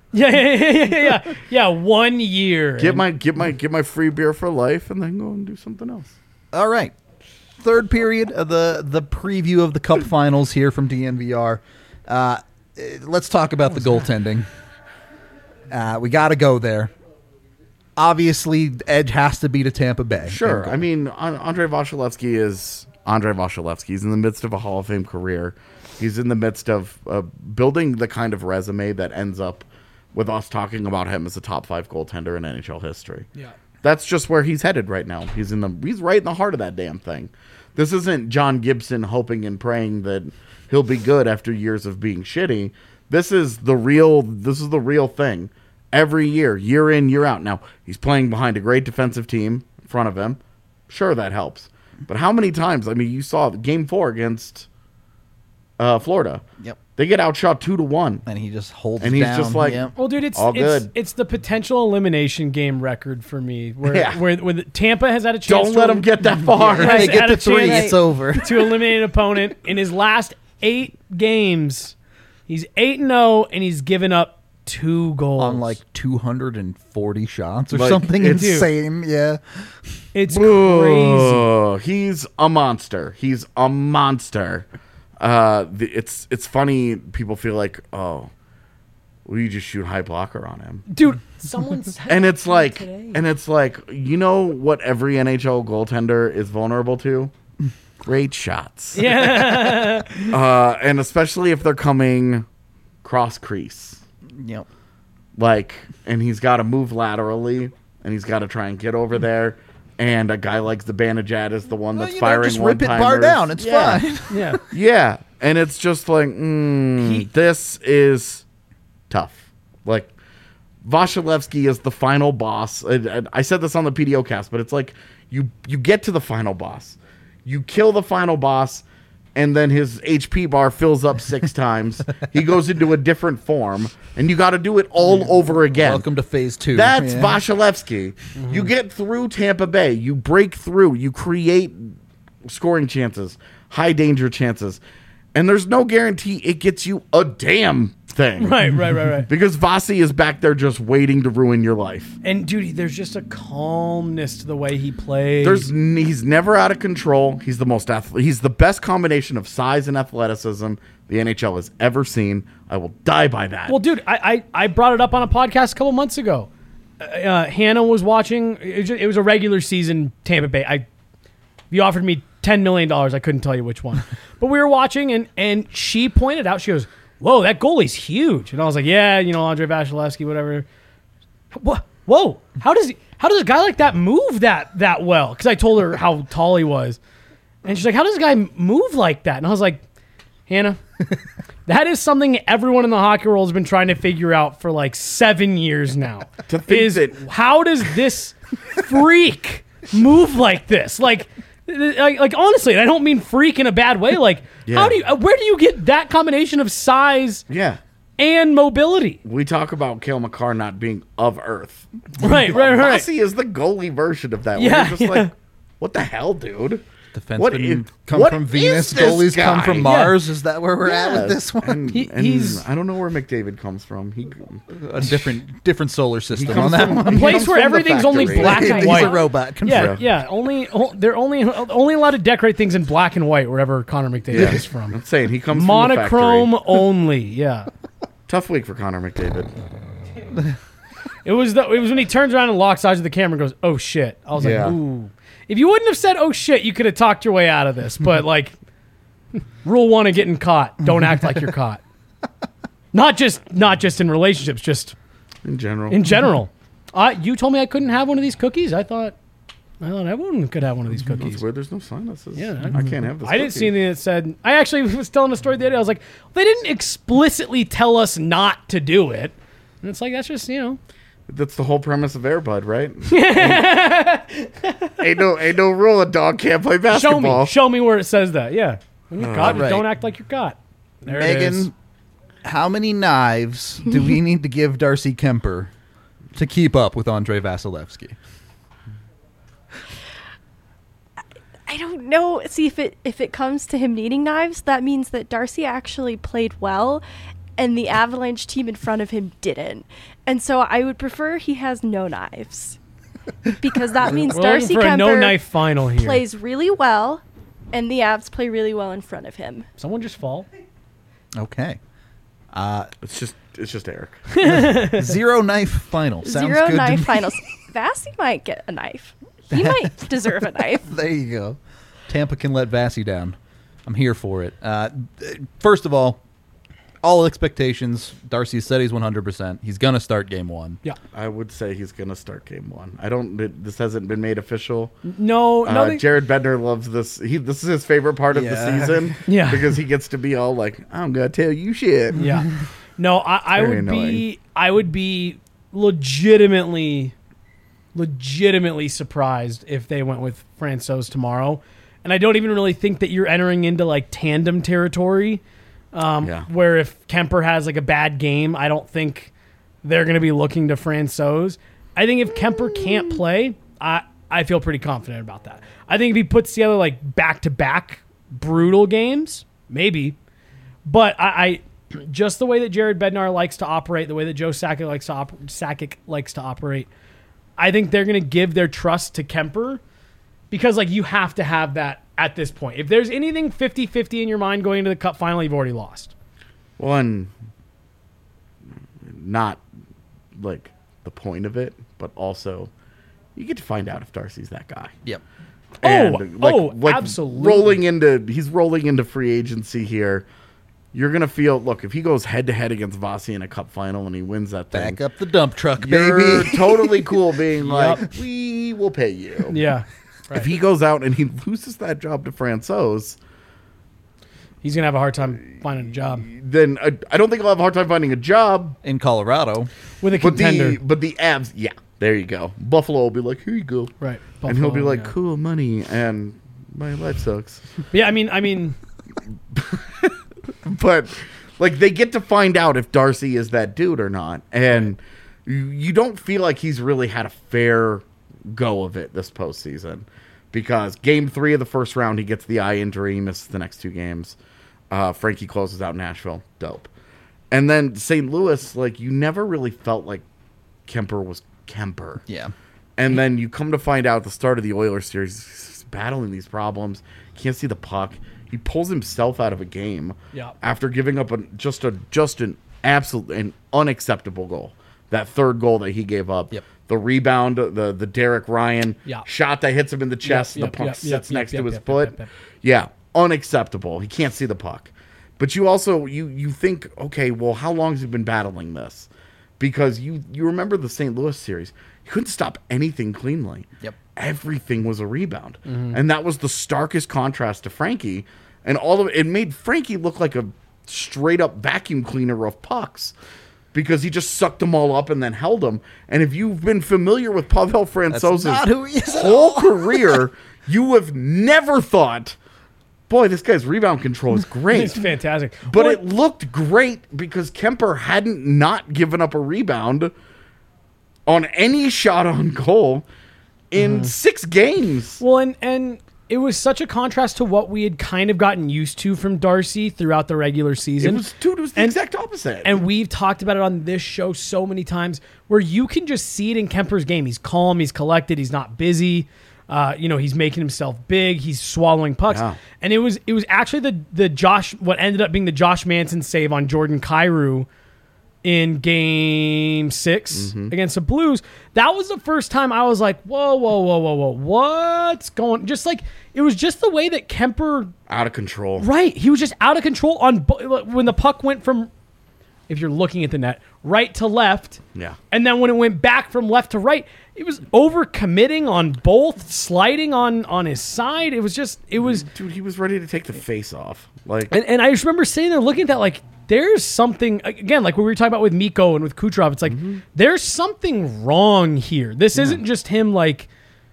Yeah, 1 year. Get my free beer for life, and then go and do something else. All right. Third period of the preview of the Cup Finals here from DNVR. Let's talk about the goaltending. We got to go there. Obviously, Edge has to be to Tampa Bay. Sure. I mean, Andrei Vasilevsky is Andrei Vasilevsky. He's in the midst of a Hall of Fame career. He's in the midst of building the kind of resume that ends up with us talking about him as a top 5 goaltender in NHL history. Yeah. That's just where he's headed right now. He's right in the heart of that damn thing. This isn't John Gibson hoping and praying that he'll be good after years of being shitty. This is the real thing. Every year, year in, year out. Now, he's playing behind a great defensive team in front of him. Sure, that helps. But how many times? I mean, you saw Game 4 against Florida. Yep. They get outshot 2-1. And he just holds And it he's down. just like, Yep. Well, dude, it's All good. it's the potential elimination game record for me, where Yeah. where Tampa has had a chance. Don't let him get that far. Yeah. If they has get had to a 3, chance it's over. to eliminate an opponent in his last 8 games. He's 8-0, and he's given up 2 goals On like 240 shots or Like, something it's- insane. Yeah. It's crazy. Oh, he's a monster. He's a monster. It's funny. People feel like, oh, well, you just shoot high blocker on him, Dude, someone said and it's like, today. you know what every NHL goaltender is vulnerable to? Great shots. Yeah. And especially if they're coming cross crease, Yep. like, and he's got to move laterally, and he's got to try and get over there. And a guy like Zibanejad is the one that's firing just rip it bar one-timers. down. It's Yeah. fine. Yeah. Yeah, and it's just like, this is tough. Like, Vasilevsky is the final boss. I said this on the PDO cast, but it's like you get to the final boss, you kill the final boss, and then his HP bar fills up 6 times. He goes into a different form, and you got to do it all over again. Welcome to phase 2. That's Yeah. Vasilevsky. You get through Tampa Bay. You break through. You create scoring chances, high danger chances. And there's no guarantee it gets you a damn thing. Right. Because Vasi is back there just waiting to ruin your life. And dude, there's just a calmness to the way he plays. He's never out of control. He's the best combination of size and athleticism the NHL has ever seen. I will die by that. Well, dude, I brought it up on a podcast a couple months ago. Hannah was watching. It was a regular season Tampa Bay. You offered me $10 million. I couldn't tell you which one. But we were watching, and she pointed out, she goes, whoa, that goalie's huge. And I was like, yeah, Andrei Vasilevsky, whatever. Whoa, how does a guy like that move that well? Because I told her how tall he was. And she's like, how does a guy move like that? And I was like, Hannah, that is something everyone in the hockey world has been trying to figure out for like 7 years now. To think that- How does this freak move like this? Like honestly, and I don't mean freak in a bad way. Like, Yeah. where do you get that combination of size yeah. and mobility? We talk about Cale Makar not being of Earth. Right. Vasi is the goalie version of that. Yeah, Where you're just yeah. like, what the hell, dude? Defensemen come what from is Venus, this goalies come guy? from Mars. Is that where we're at with this one? And He's- I don't know where McDavid comes from. A different solar system comes on that from- one. A place comes where from the everything's only factory. black and He's white. a robot. Confirmed. Yeah. They're only allowed to decorate things in black and white wherever Connor McDavid is from. I'm saying he comes Monochrome from the factory. only. Yeah. Tough week for Connor McDavid. It was when he turns around and locks eyes with the camera and goes, "Oh shit!" I was Yeah. like, "Ooh." If you wouldn't have said, "Oh shit," you could have talked your way out of this. But like, rule one of getting caught: don't act like you're caught. Not just in relationships, just In general. in general. You told me I couldn't have one of these cookies. I thought everyone could have one of these That's cookies. weird. There's no sinuses. Yeah, I can't have this. I didn't see cookie. anything that said. I actually was telling a story the other day. I was like, they didn't explicitly tell us not to do it. And it's like that's just That's the whole premise of Airbud, right? ain't no rule. A dog can't play basketball. Show me where it says that. Yeah, when you're caught, right. don't act like you're caught. There it is. Megan, how many knives do we need to give Darcy Kemper to keep up with Andrei Vasilevsky? I don't know. See, if it comes to him needing knives, that means that Darcy actually played well, and the Avalanche team in front of him didn't. And so I would prefer he has no knives, because that means We're Darcy looking for a Kemper no-knife final here. plays really well, and the Avs play really well in front of him. Someone just fall. Okay. It's just Eric. 0 knife final. Sounds Zero good knife to me. finals. Vassy might get a knife. He might deserve a knife. There you go. Tampa can let Vassy down. I'm here for it. First of all expectations. Darcy said he's 100%. He's going to start game 1. Yeah. I would say he's gonna start game 1. This hasn't been made official. No. Jared Bednar loves this. This is his favorite part of the Yeah. season. Yeah. Because he gets to be all like, I'm gonna tell you shit. Yeah. No, I very would be legitimately surprised if they went with Francouz tomorrow. And I don't even really think that you're entering into like tandem territory. Where if Kemper has like a bad game, I don't think they're going to be looking to Francouz. I think if Kemper can't play, I feel pretty confident about that. I think if he puts together like back-to-back brutal games, maybe. But I just the way that Jared Bednar likes to operate, the way that Joe Sakic likes to operate, I think they're going to give their trust to Kemper because like you have to have that at this point. If there's anything 50-50 in your mind going into the Cup final, you've already lost. One, not like the point of it, but also you get to find out if Darcy's that guy. Yep. Absolutely. He's rolling into free agency here. You're gonna feel. Look, if he goes head to head against Vasi in a Cup final and he wins that thing, Back up the dump truck, you're baby. totally cool being like, we will pay you. Yeah. If he goes out and he loses that job to Francouz, He's going to have a hard time finding a job then I don't think he'll have a hard time finding a job. In Colorado. with a But contender. the Avs, yeah, there you go. Buffalo will be like, here you go, Right. and he'll be Buffalo, like, yeah. cool money, and my life sucks. Yeah, I mean, But like they get to find out if Darcy is that dude or not, and you don't feel like he's really had a fair go of it this postseason because Game 3 of the first round he gets the eye injury, he misses the next 2 games. Frankie closes out Nashville, dope, and then St. Louis, like you never really felt like Kemper was Kemper. Yeah. And then you come to find out at the start of the Oilers series, he's battling these problems. Can't see the puck. He pulls himself out of a game after giving up just an absolute and unacceptable goal. That third goal that he gave up. Yep. The rebound, the Derek Ryan shot that hits him in the chest, and the puck sits next to his foot. Yeah, unacceptable. He can't see the puck. But you also you think, okay, well, how long has he been battling this? Because you remember the St. Louis series. He couldn't stop anything cleanly. Yep. Everything was a rebound. And that was the starkest contrast to Frankie. And all of it made Frankie look like a straight up vacuum cleaner of pucks because he just sucked them all up and then held them. And if you've been familiar with Pavel Francouz's not who he is at whole career, you have never thought, boy, this guy's rebound control is great. it's fantastic. But Well, it looked great because Kemper hadn't not given up a rebound on any shot on goal in 6 games. Well, and it was such a contrast to what we had kind of gotten used to from Darcy throughout the regular season. It was the exact opposite. And we've talked about it on this show so many times where you can just see it in Kemper's game. He's calm, he's collected, he's not busy. He's making himself big, he's swallowing pucks. Yeah. And it was actually what ended up being the Josh Manson save on Jordan Kyrou in game 6 against the Blues. That was the first time I was like, whoa, what's going? Just like, it was just the way that Kemper, out of control. right? He was just out of control when the puck went from, if you're looking at the net, right to left. Yeah. And then when it went back from left to right, it was over committing on both, sliding on his side. It was Dude, he was ready to take the face off. Like, and I just remember sitting there looking at that like, there's something, again, like what we were talking about with Mikko and with Kucherov, it's like, there's something wrong here. This isn't just him like,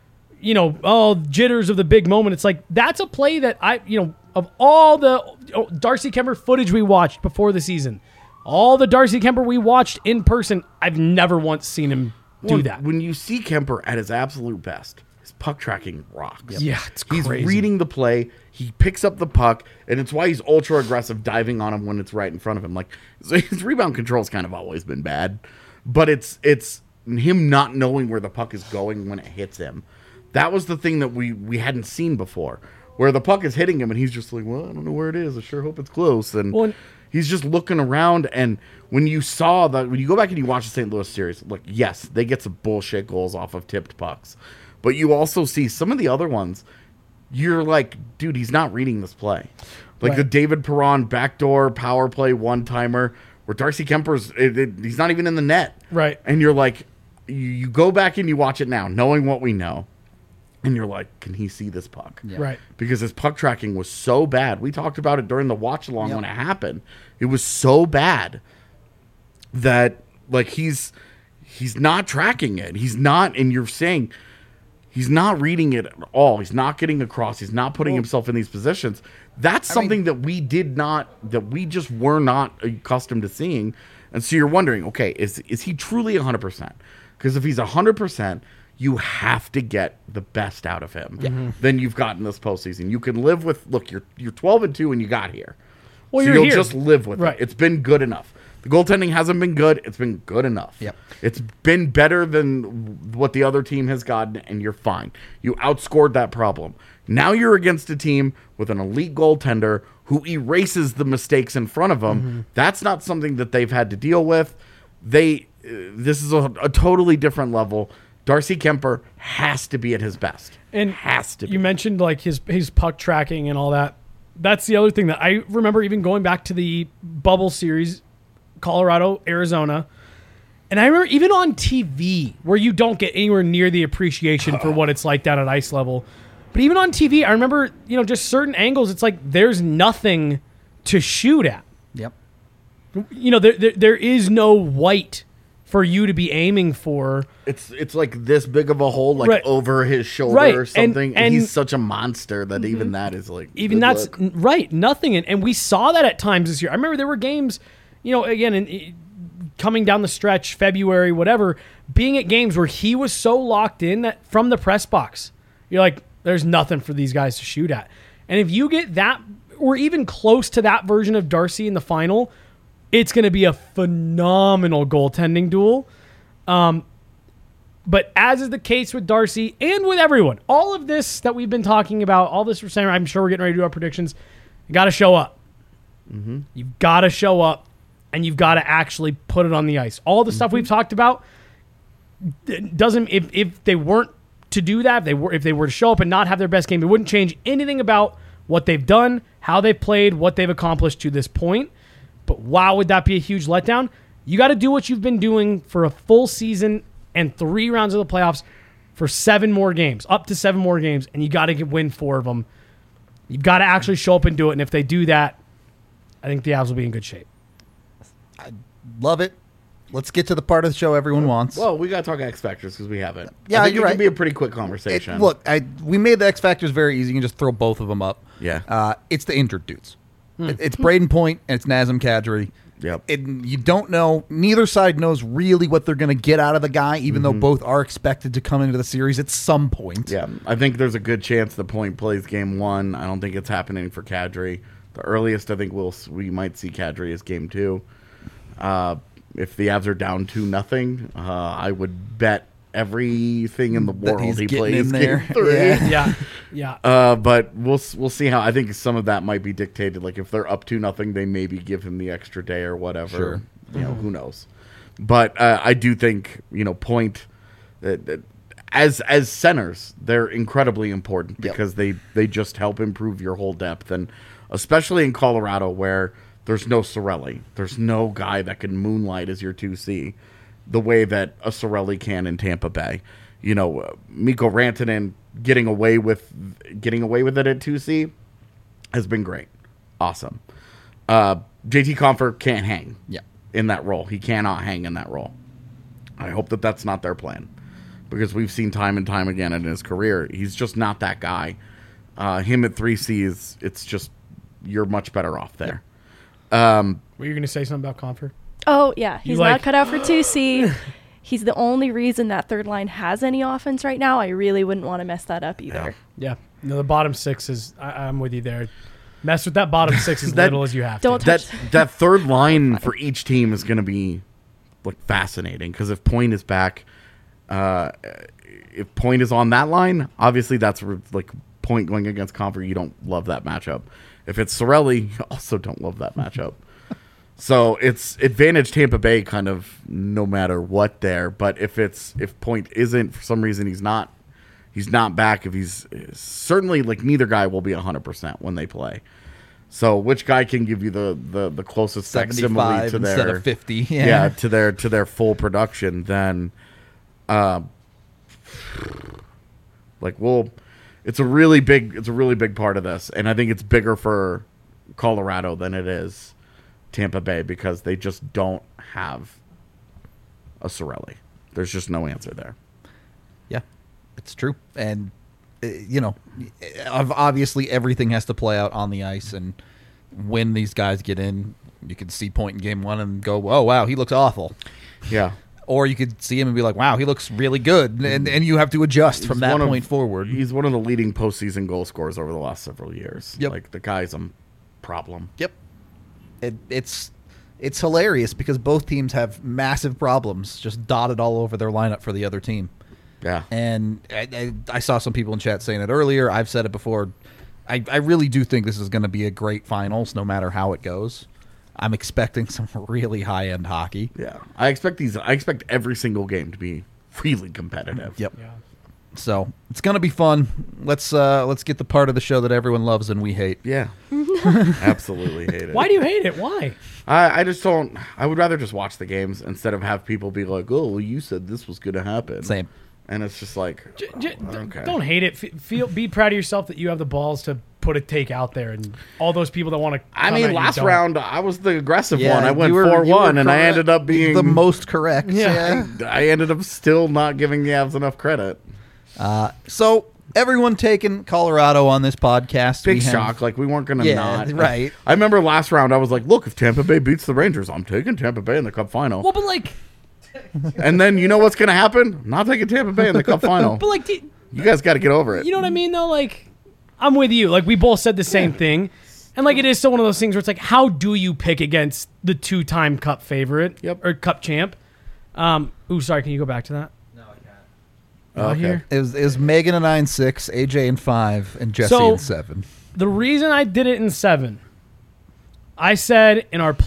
jitters of the big moment. It's like, that's a play that of all the Darcy Kemper footage we watched before the season, all the Darcy Kemper we watched in person, I've never once seen him do that. When you see Kemper at his absolute best, his puck tracking rocks. Yeah, it's He's crazy. reading the play. He picks up the puck, and it's why he's ultra aggressive, diving on him when it's right in front of him. Like, so his rebound control's kind of always been bad, but it's him not knowing where the puck is going when it hits him. That was the thing that we hadn't seen before, where the puck is hitting him, and he's just like, well, I don't know where it is. I sure hope it's close. And he's just looking around, and when you go back and you watch the St. Louis series, like, yes, they get some bullshit goals off of tipped pucks, but you also see some of the other ones. You're like, dude, he's not reading this play. Like the David Perron backdoor power play one-timer where Darcy Kemper's, he's not even in the net. Right. And you're like, you go back and you watch it now, knowing what we know, and you're like, can he see this puck? Yeah. Right. Because his puck tracking was so bad. We talked about it during the watch-along when it happened. It was so bad that, like, he's not tracking it. He's not, and you're saying... He's not reading it at all. He's not getting across. He's not putting himself in these positions. That's something that we just were not accustomed to seeing. And so you're wondering, okay, is he truly 100%? Because if he's 100%, you have to get the best out of him. Then you've gotten this postseason. You can live with, look, you're 12-2 and you got here. Well, so you'll here. Just live with it. It's been good enough. The goaltending hasn't been good. It's been good enough. Yep. It's been better than what the other team has gotten, and you're fine. You outscored that problem. Now you're against a team with an elite goaltender who erases the mistakes in front of them. That's not something that they've had to deal with. This is a totally different level. Darcy Kemper has to be at his best. And has to be. You mentioned like his puck tracking and all that. That's the other thing that I remember even going back to the bubble series, Colorado, Arizona. And I remember even on TV where you don't get anywhere near the appreciation for what it's like down at ice level. But even on TV, I remember, just certain angles, it's like there's nothing to shoot at. Yep. There is no white for you to be aiming for. It's like this big of a hole, like Right. over his shoulder Right. or something. And he's such a monster that even that is like even good that's luck. right, nothing. And we saw that at times this year. I remember there were games, again, coming down the stretch, February, whatever, being at games where he was so locked in that from the press box, you're like, there's nothing for these guys to shoot at. And if you get that, or even close to that version of Darcy in the final, it's going to be a phenomenal goaltending duel. But as is the case with Darcy and with everyone, all of this that we've been talking about, all this we're saying, I'm sure we're getting ready to do our predictions. You got to show up. You've got to show up, and you've got to actually put it on the ice. All the stuff we've talked about doesn't. If they weren't to do that, if they were to show up and not have their best game, it wouldn't change anything about what they've done, how they've played, what they've accomplished to this point. But wow, would that be a huge letdown? You got to do what you've been doing for a full season and 3 rounds of the playoffs for 7 more games, up to 7 more games, and you got to win 4 of them. You've got to actually show up and do it, and if they do that, I think the Avs will be in good shape. I love it. Let's get to the part of the show everyone wants. Well, we got to talk X Factors because we haven't. Yeah, I think you're it right. can be a pretty quick conversation. We made the X Factors very easy. You can just throw both of them up. Yeah. It's the injured dudes. It's Braden Point and it's Nazem Kadri. Yep. And you don't know. Neither side knows really what they're going to get out of the guy, even though both are expected to come into the series at some point. Yeah, I think there's a good chance the Point plays game 1. I don't think it's happening for Kadri. The earliest I think we might see Kadri is game 2. If the Avs are down 2-0, I would bet everything in the world he's he getting plays in there. game 3. Yeah. Yeah. But we'll see how. I think some of that might be dictated. Like if they're up 2-0, they maybe give him the extra day or whatever. Sure. You know, who knows? But I do think Point as centers, they're incredibly important because they just help improve your whole depth, and especially in Colorado where there's no Cirelli, there's no guy that can moonlight as your 2C the way that a Cirelli can in Tampa Bay. Mikko Rantanen getting away with it at 2C has been great. Awesome. JT Compher can't hang in that role. He cannot hang in that role. I hope that that's not their plan, because we've seen time and time again in his career, he's just not that guy. Him at 3C it's just, you're much better off there. Were you going to say something about Compher? Oh, yeah. He's not cut out for 2C. He's the only reason that third line has any offense right now. I really wouldn't want to mess that up either. Yeah. No, the bottom 6 is, I'm with you there. Mess with that bottom 6 as little as you have to. That third line for each team is going to be fascinating, because if Point is back, if Point is on that line, obviously that's Point going against Compher. You don't love that matchup. If it's Cirelli, you also don't love that matchup. So it's advantage Tampa Bay kind of no matter what there. But if Point isn't, for some reason he's not back, if he's certainly, neither guy will be 100% when they play. So which guy can give you the closest facsimile to instead their of 50? Yeah, to their full production, then it's a really big part of this, and I think it's bigger for Colorado than it is Tampa Bay, because they just don't have a Cirelli. There's just no answer there. Yeah, it's true. And, obviously everything has to play out on the ice. And when these guys get in, you can see Point in game 1 and go, oh, wow, he looks awful. Yeah. Or you could see him and be like, wow, he looks really good. And you have to adjust from that point forward. He's one of the leading postseason goal scorers over the last several years. Yep. The guy's a problem. Yep. It's hilarious because both teams have massive problems just dotted all over their lineup for the other team. Yeah. And I saw some people in chat saying it earlier. I've said it before. I really do think this is going to be a great finals, no matter how it goes. I'm expecting some really high-end hockey. Yeah. I expect every single game to be really competitive. Yep. Yeah. So it's going to be fun. Let's get the part of the show that everyone loves and we hate. Yeah. Absolutely hate it. Why do you hate it? Why? I just don't. I would rather just watch the games instead of have people be like, oh, well, you said this was going to happen. Same. And it's just like, okay. Don't hate it. Be proud of yourself that you have the balls to put a take out there, and all those people that want to. I mean, last round I was the aggressive one. I went you were 4-1, and I correct. ended up being the most correct. Yeah. I ended up still not giving the Avs enough credit. So everyone taking Colorado on this podcast. Big shock. We weren't going to not. Right. I remember last round I was like, look, if Tampa Bay beats the Rangers, I'm taking Tampa Bay in the Cup final. Well, but and then you know what's going to happen? I'm not taking Tampa Bay in the Cup final. But you guys got to get over it. You know what I mean, though? I'm with you. We both said the same thing. And, it is still one of those things where it's how do you pick against the 2-time Cup favorite? Yep. Or Cup champ? Sorry, can you go back to that? No, I can't. Okay. Here. It was Megan in 9-6, AJ in 5, and Jesse in 7. The reason I did it in 7, I said in our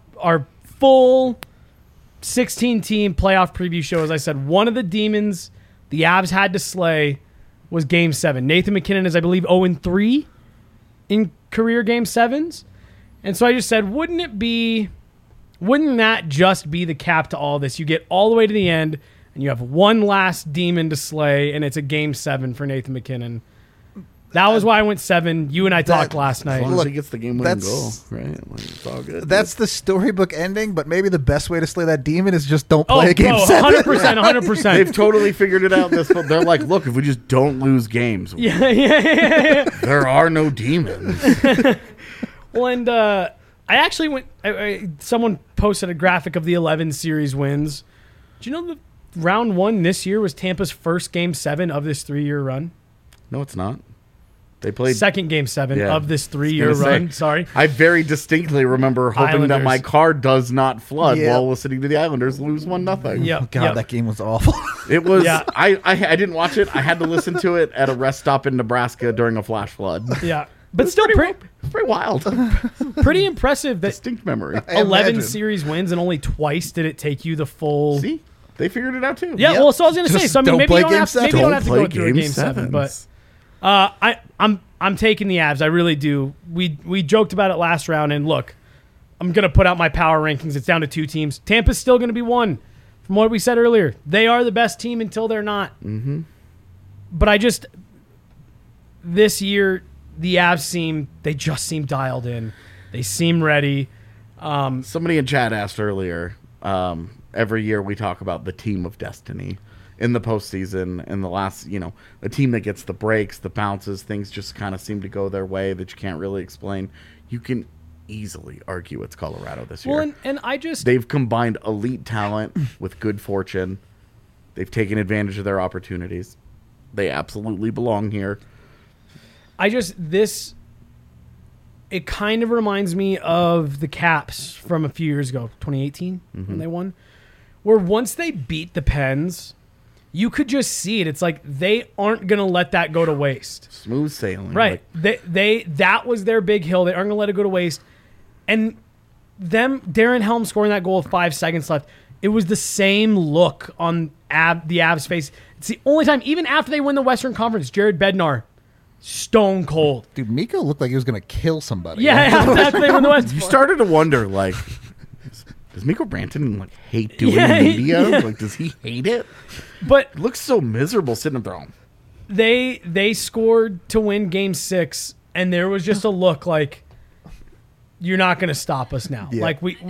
full 16-team playoff preview shows, I said one of the demons the Avs had to slay was Game 7. Nathan MacKinnon is, I believe, 0-3 in career Game 7s. And so I just said, wouldn't that just be the cap to all this? You get all the way to the end, and you have one last demon to slay, and it's a Game 7 for Nathan MacKinnon. That was why I went 7. You and I talked last night. As long as Look, he gets the game-winning goal, right? It's all good. That's the storybook ending, but maybe the best way to slay that demon is just don't play a game 7. 100%. They've totally figured it out. They're like, look, if we just don't lose games, Yeah. there are no demons. Well, and I actually went. Someone posted a graphic of the 11 series wins. Do you know the round 1 this year was Tampa's first Game 7 of this 3-year run? No, it's not. They played Second Game 7 Yeah. of this 3-year run. Sorry. I very distinctly remember hoping that Islanders. my car does not flood Yeah. while listening to the Islanders lose 1-0. Yep. God, yep. that game was awful. It was. Yeah. I didn't watch it. I had to listen to it at a rest stop in Nebraska during a flash flood. Yeah. But still It's pretty wild. pretty impressive that Distinct memory. 11 imagine. series wins and only twice did it take you the full. See, they figured it out too. Yeah, Yep. well, so I was going to say, Just so I mean, don't maybe play you don't game have, seven. maybe you don't have to Don't go play through a game Game 7, but sevens. I'm taking the Avs. I really do. We joked about it last round, and look, I'm going to put out my power rankings. It's down to 2 teams. Tampa's still going to be 1. From what we said earlier, they are the best team until they're not. Mm-hmm. But this year, the Avs just seem dialed in. They seem ready. Somebody in chat asked earlier. Every year we talk about the team of destiny in the postseason. In the last, the team that gets the breaks, the bounces, things just kind of seem to go their way that you can't really explain. You can easily argue it's Colorado this year. Well, and I just They've combined elite talent with good fortune. They've taken advantage of their opportunities. They absolutely belong here. It kind of reminds me of the Caps from a few years ago, 2018, when they won, where once they beat the Pens, you could just see it. It's like they aren't going to let that go to waste. Smooth sailing. Right. Like, That was their big hill. They aren't going to let it go to waste. And Darren Helm scoring that goal with 5 seconds left, it was the same look on the Avs' face. It's the only time, even after they win the Western Conference, Jared Bednar, stone cold. Dude, Miko looked like he was going to kill somebody. Yeah, after they win the Western. you started to wonder, like, does Mikko Brantanen hate doing Yeah, media? Like, does he hate it? But It looks so miserable sitting there. they scored to win Game 6, and there was just a look like, you're not going to stop us now. Yeah. Like, we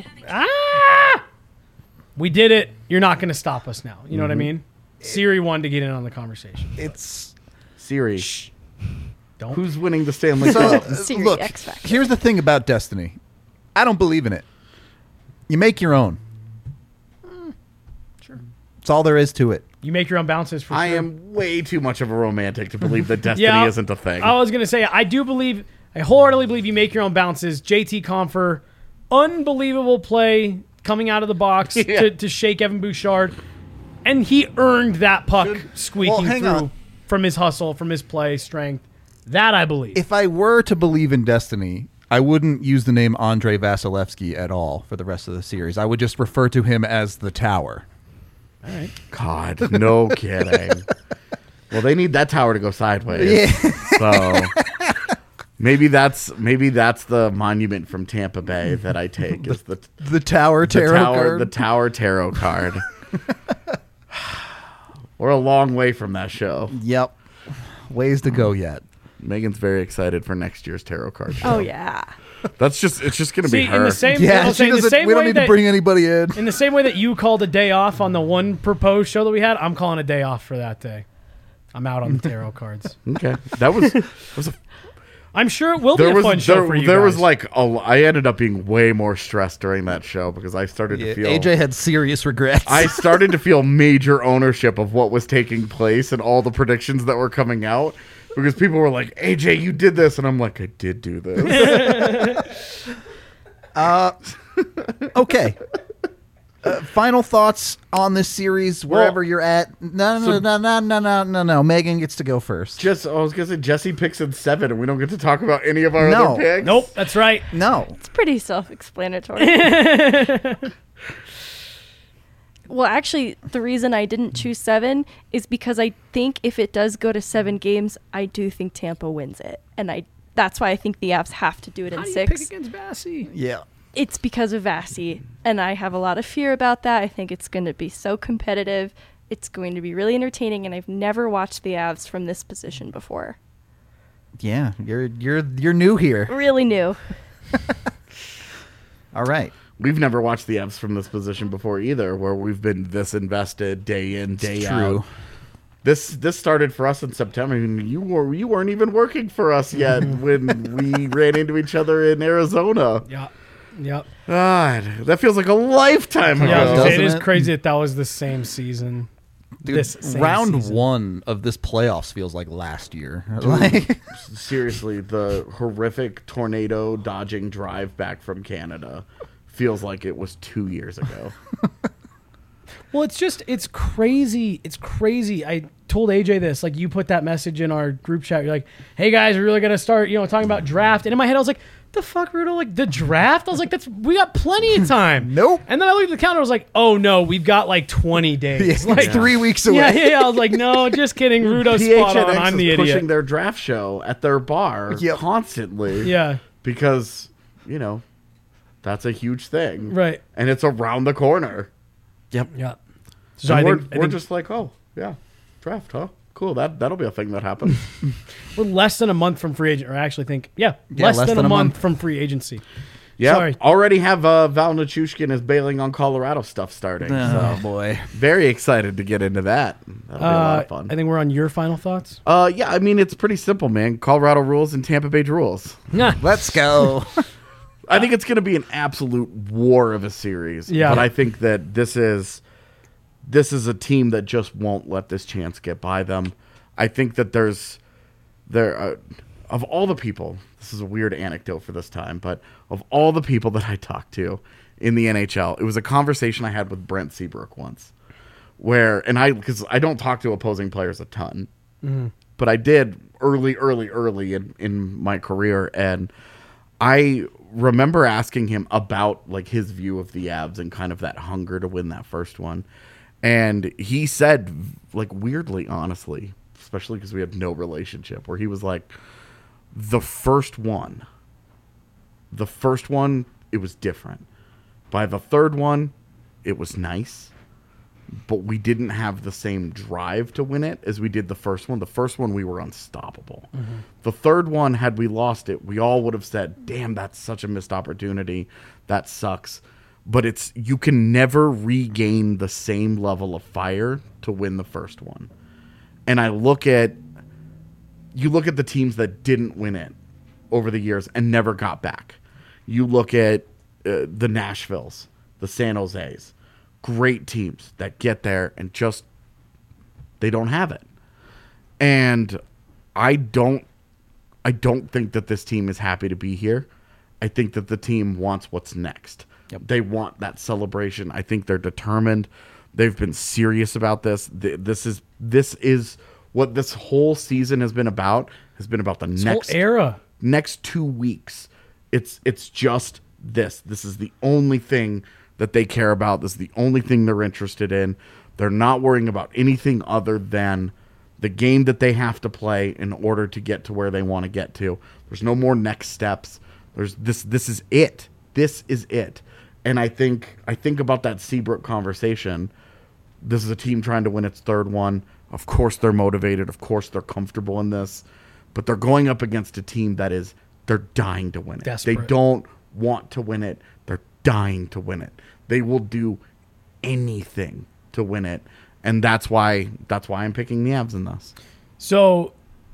did it. You're not going to stop us now. You know what I mean? Siri wanted to get in on the conversation. It's Siri, Don't. who's winning the Stanley so. Cup? Siri Look, X Factor. here's the thing about Destiny. I don't believe in it. You make your own. Sure. That's all there is to it. You make your own bounces for I sure. am way too much of a romantic to believe that Destiny Yeah, isn't a thing. I was going to say, I wholeheartedly believe you make your own bounces. JT Compher, unbelievable play coming out of the box Yeah. to shake Evan Bouchard. And he earned that puck squeaking hang through on. from his hustle, from his play, strength. That I believe. If I were to believe in Destiny, I wouldn't use the name Andrei Vasilevsky at all for the rest of the series. I would just refer to him as the Tower. All right. God, no kidding. Well, they need that tower to go sideways. Yeah. So maybe that's the monument from Tampa Bay that I take is the The Tower tarot card. the Tower Tarot card. We're a long way from that show. Yep. Ways to go yet. Megan's very excited for next year's tarot card show. Oh yeah. It's just going to be See, her. in the same, Yeah, I'll say she in the doesn't. same We don't way need to that, bring anybody in. in the same way that you called a day off on the one proposed show that we had, I'm calling a day off for that day. I'm out on the tarot cards. Okay. That was a I'm sure it will be there a was fun show for you there guys. was like I ended up being way more stressed during that show because I started to feel AJ had serious regrets. I started to feel major ownership of what was taking place and all the predictions that were coming out because people were like, AJ, you did this. And I'm like, I did do this. Okay. Final thoughts on this series, wherever you're at. No. Megan gets to go first. I was going to say Jesse picks in 7 and we don't get to talk about any of our No. other picks. Nope, that's right. No. It's pretty self-explanatory. Well, actually, the reason I didn't choose 7 is because I think if it does go to 7 games, I do think Tampa wins it. And that's why I think the Avs have to do it How in do you 6. pick against Bassey? Yeah. It's because of Vasi, and I have a lot of fear about that. I think it's going to be so competitive. It's going to be really entertaining, and I've never watched the Avs from this position before. Yeah. You're new here. Really new. All right. We've never watched the Avs from this position before either, where we've been this invested day in, day True. out. This started for us in September. I mean, you weren't even working for us yet when we ran into each other in Arizona. Yeah. Yep. God, that feels like a lifetime ago. Yeah, I was gonna say, it is Doesn't it? crazy that was the same season. Dude, This same round season. 1 of this playoffs feels like last year. Like, Seriously, the horrific tornado dodging drive back from Canada feels like it was 2 years ago. Well, it's crazy. It's crazy. I told AJ this. Like, you put that message in our group chat. You're like, hey, guys, we're really going to start, talking about draft. And in my head, I was like, the fuck, Rudo? Like, the draft? I was like, we got plenty of time. Nope. And then I looked at the calendar. I was like, oh, no, we've got like 20 days. it's Like, 3 weeks away. yeah. I was like, no, just kidding. Rudo's spot on. PHNX I'm the is idiot. pushing their draft show at their bar Yep. constantly. Yeah, Because, that's a huge thing. right. And it's around the corner. Yeah. So And I we're think just like, oh, yeah, draft, huh? Cool. That'll be a thing that happens. we're less than a month from free agent. Or I actually think, less than than a a month month. from free agency. Yeah. Sorry. Already have Val Nichushkin is bailing on Colorado stuff starting. Oh, So boy. very excited to get into that. That'll be a lot of fun. I think we're on your final thoughts. Yeah, I mean, it's pretty simple, man. Colorado rules and Tampa Bay rules. Nah. Let's go. I think it's going to be an absolute war of a series. Yeah. But I think that this is a team that just won't let this chance get by them. I think that of all the people, this is a weird anecdote for this time, but of all the people that I talked to in the NHL, it was a conversation I had with Brent Seabrook once, because I don't talk to opposing players a ton, but I did early in my career, and I remember asking him about like his view of the Avs and kind of that hunger to win that first one. And he said, like, weirdly, honestly, especially because we had no relationship, where he was like, the first one, it was different. By the third one, it was nice, but we didn't have the same drive to win it as we did the first one. The first one, we were unstoppable. The third one, had we lost it, we all would have said, damn, that's such a missed opportunity. That sucks. But you can never regain the same level of fire to win the first one. And you look at the teams that didn't win it over the years and never got back. You look at the Nashvilles, the San Jose's, great teams that get there and just, they don't have it. And I don't think that this team is happy to be here. I think that the team wants what's next. Yep. They want that celebration. I think they're determined. They've been serious about this. This is what this whole season has been about. Has been about the next Whole era. next 2 weeks. It's just this. This is the only thing that they care about. This is the only thing they're interested in. They're not worrying about anything other than the game that they have to play in order to get to where they want to get to. There's no more next steps. This is it. This is it. And I think about that Seabrook conversation. This is a team trying to win its third one. Of course they're motivated. Of course they're comfortable in this. But they're going up against a team they're dying to win it. Desperate. They don't want to win it. They're dying to win it. They will do anything to win it. And that's why I'm picking the Avs in this. So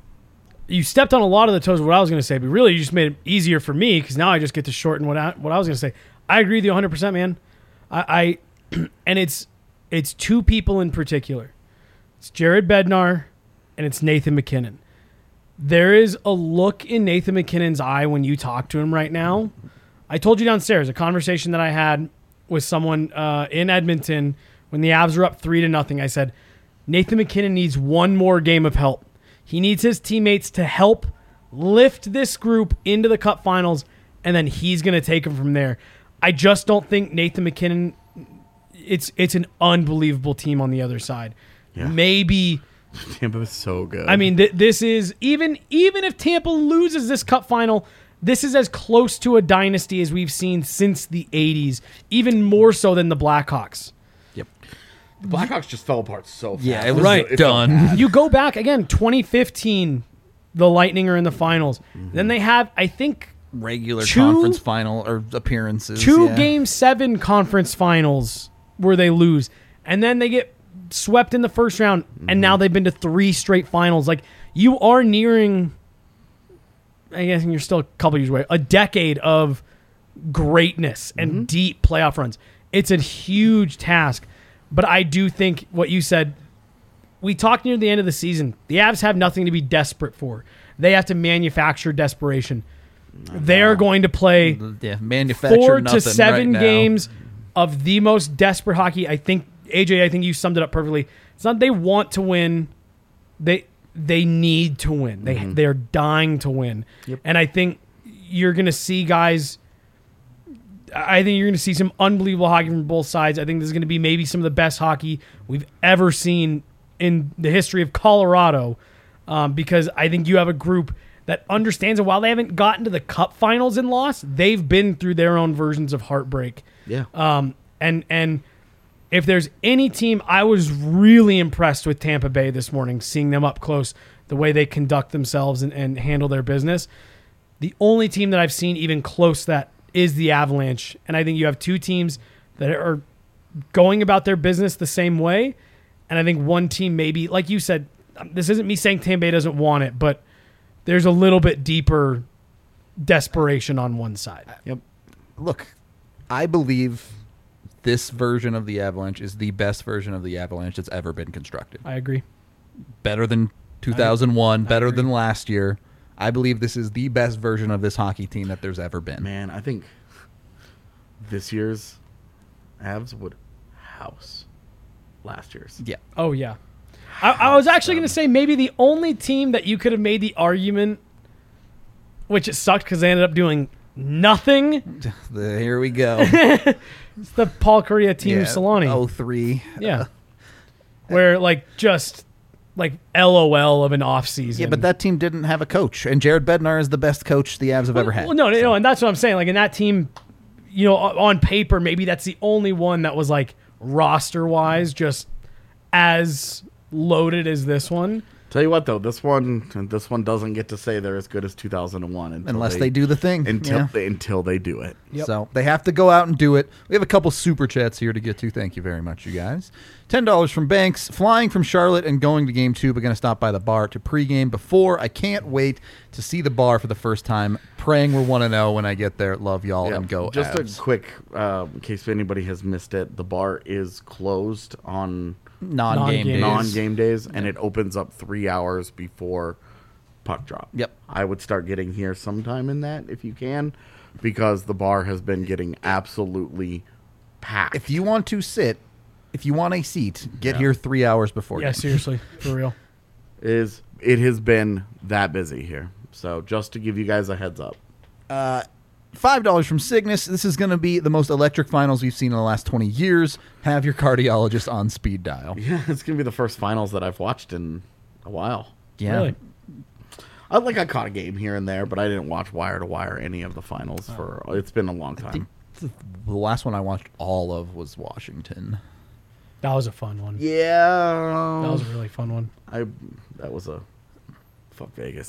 you stepped on a lot of the toes of what I was going to say, but really you just made it easier for me because now I just get to shorten what I was going to say. I agree with you 100%, man. I and it's two people in particular. It's Jared Bednar and it's Nathan MacKinnon. There is a look in Nathan MacKinnon's eye when you talk to him right now. I told you downstairs a conversation that I had with someone in Edmonton when the Avs were up 3-0. I said, Nathan MacKinnon needs one more game of help. He needs his teammates to help lift this group into the Cup Finals, and then he's going to take them from there. I just don't think Nathan MacKinnon, it's an unbelievable team on the other side. Yeah. Maybe... Tampa is so good. I mean, this is even if Tampa loses this Cup final, this is as close to a dynasty as we've seen since the 80s, even more so than the Blackhawks. Yep. the Blackhawks just fell apart so fast. Yeah, it was Right. done. You go back again, 2015, the Lightning are in the finals. Then they have, I think, Regular Two- conference final or appearances. two yeah. Game 7 conference finals where they lose. And then they get swept in the first round, and now they've been to 3 straight finals. Like, you are nearing, I guess you're still a couple years away, a decade of greatness and deep playoff runs. It's a huge task. But I do think what you said, we talked near the end of the season. The Avs have nothing to be desperate for. They have to manufacture desperation. They're going to play manufacture 4 to nothing 7 right games of the most desperate hockey. I think, AJ, I think you summed it up perfectly. It's not they want to win. They need to win. They're dying to win. Yep. And I think you're going to see guys... I think you're going to see some unbelievable hockey from both sides. I think this is going to be maybe some of the best hockey we've ever seen in the history of Colorado, because I think you have a group that understands that while they haven't gotten to the Cup Finals and lost, they've been through their own versions of heartbreak. Yeah. And if there's any team, I was really impressed with Tampa Bay this morning, seeing them up close, the way they conduct themselves and handle their business. The only team that I've seen even close to that is the Avalanche. And I think you have two teams that are going about their business the same way. And I think one team maybe, like you said, this isn't me saying Tampa Bay doesn't want it, but there's a little bit deeper desperation on one side. Yep. Look, I believe this version of the Avalanche is the best version of the Avalanche that's ever been constructed. I agree. Better than 2001, better agree. than last year. I believe this is the best version of this hockey team that there's ever been. Man, I think this year's Avs would house last year's. Yeah. Oh, yeah. I was actually going to say maybe the only team that you could have made the argument, which it sucked because they ended up doing nothing. Here we go. It's the Paul Kariya team of Solani. 03. Yeah. Where, just LOL of an offseason. Yeah, but that team didn't have a coach, and Jared Bednar is the best coach the Avs have ever had. Well, no, and that's what I'm saying. In that team, on paper, maybe that's the only one that was, roster-wise, just as loaded as this one. Tell you what, though, this one doesn't get to say they're as good as 2001 unless they do the thing. Until they do it. Yep. So they have to go out and do it. We have a couple super chats here to get to. Thank you very much, you guys. $10 from Banks. Flying from Charlotte and going to game 2, but going to stop by the bar to pregame before. I can't wait to see the bar for the first time. Praying we're 1-0 when I get there. Love y'all and go Just Avs. a quick, in case anybody has missed it, the bar is closed on non-game days, and it opens up 3 hours before puck drop. Yep. I would start getting here sometime in that if you can, because the bar has been getting absolutely packed. If you want to sit, if you want a seat, get here 3 hours before. Yeah, game. seriously, for real. It has been that busy here. So just to give you guys a heads up. $5 from Cygnus. This is going to be the most electric finals we've seen in the last 20 years. Have your cardiologist on speed dial. Yeah, it's going to be the first finals that I've watched in a while. Yeah. Really? I caught a game here and there, but I didn't watch wire to wire any of the finals it's been a long time. The last one I watched all of was Washington. That was a fun one. Yeah. That was a really fun one. That was a fuck Vegas.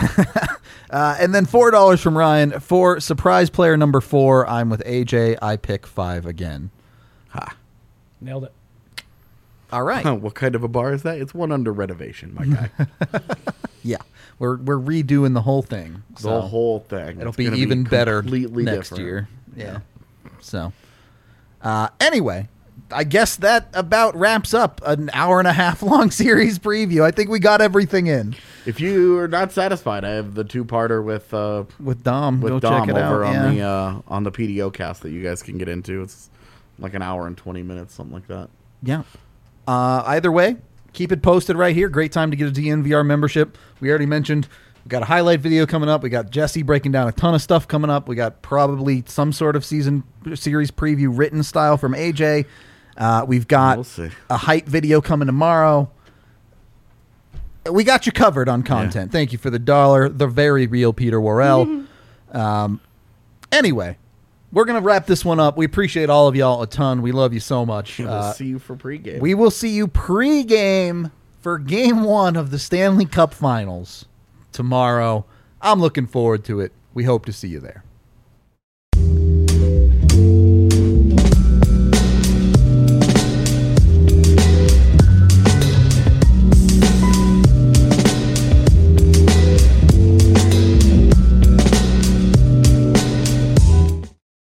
And then $4 from Ryan. For surprise player number 4, I'm with AJ. I pick 5 again. Ha. Nailed it. All right. What kind of a bar is that? It's one under renovation, my guy. Yeah. We're redoing the whole thing. The whole thing. It'll It's be gonna even better completely next different. year. Yeah. So, anyway, I guess that about wraps up an hour and a half long series preview. I think we got everything in. If you are not satisfied, I have the 2-parter with Dom. Go Dom check it over out. on the PDO cast that you guys can get into. It's like an hour and 20 minutes, something like that. Yeah. Either way, keep it posted right here. Great time to get a DNVR membership. We already mentioned we got a highlight video coming up. We got Jesse breaking down a ton of stuff coming up. We got probably some sort of series preview written style from AJ. We've got We'll see. a hype video coming tomorrow. We got you covered on content. Thank you for the $1. The very real Peter Worrell. Anyway, we're going to wrap this one up. We appreciate all of y'all a ton. We love you so much. We'll see you for pregame. We will see you pregame for Game 1 of the Stanley Cup Finals tomorrow. I'm looking forward to it. We hope to see you there.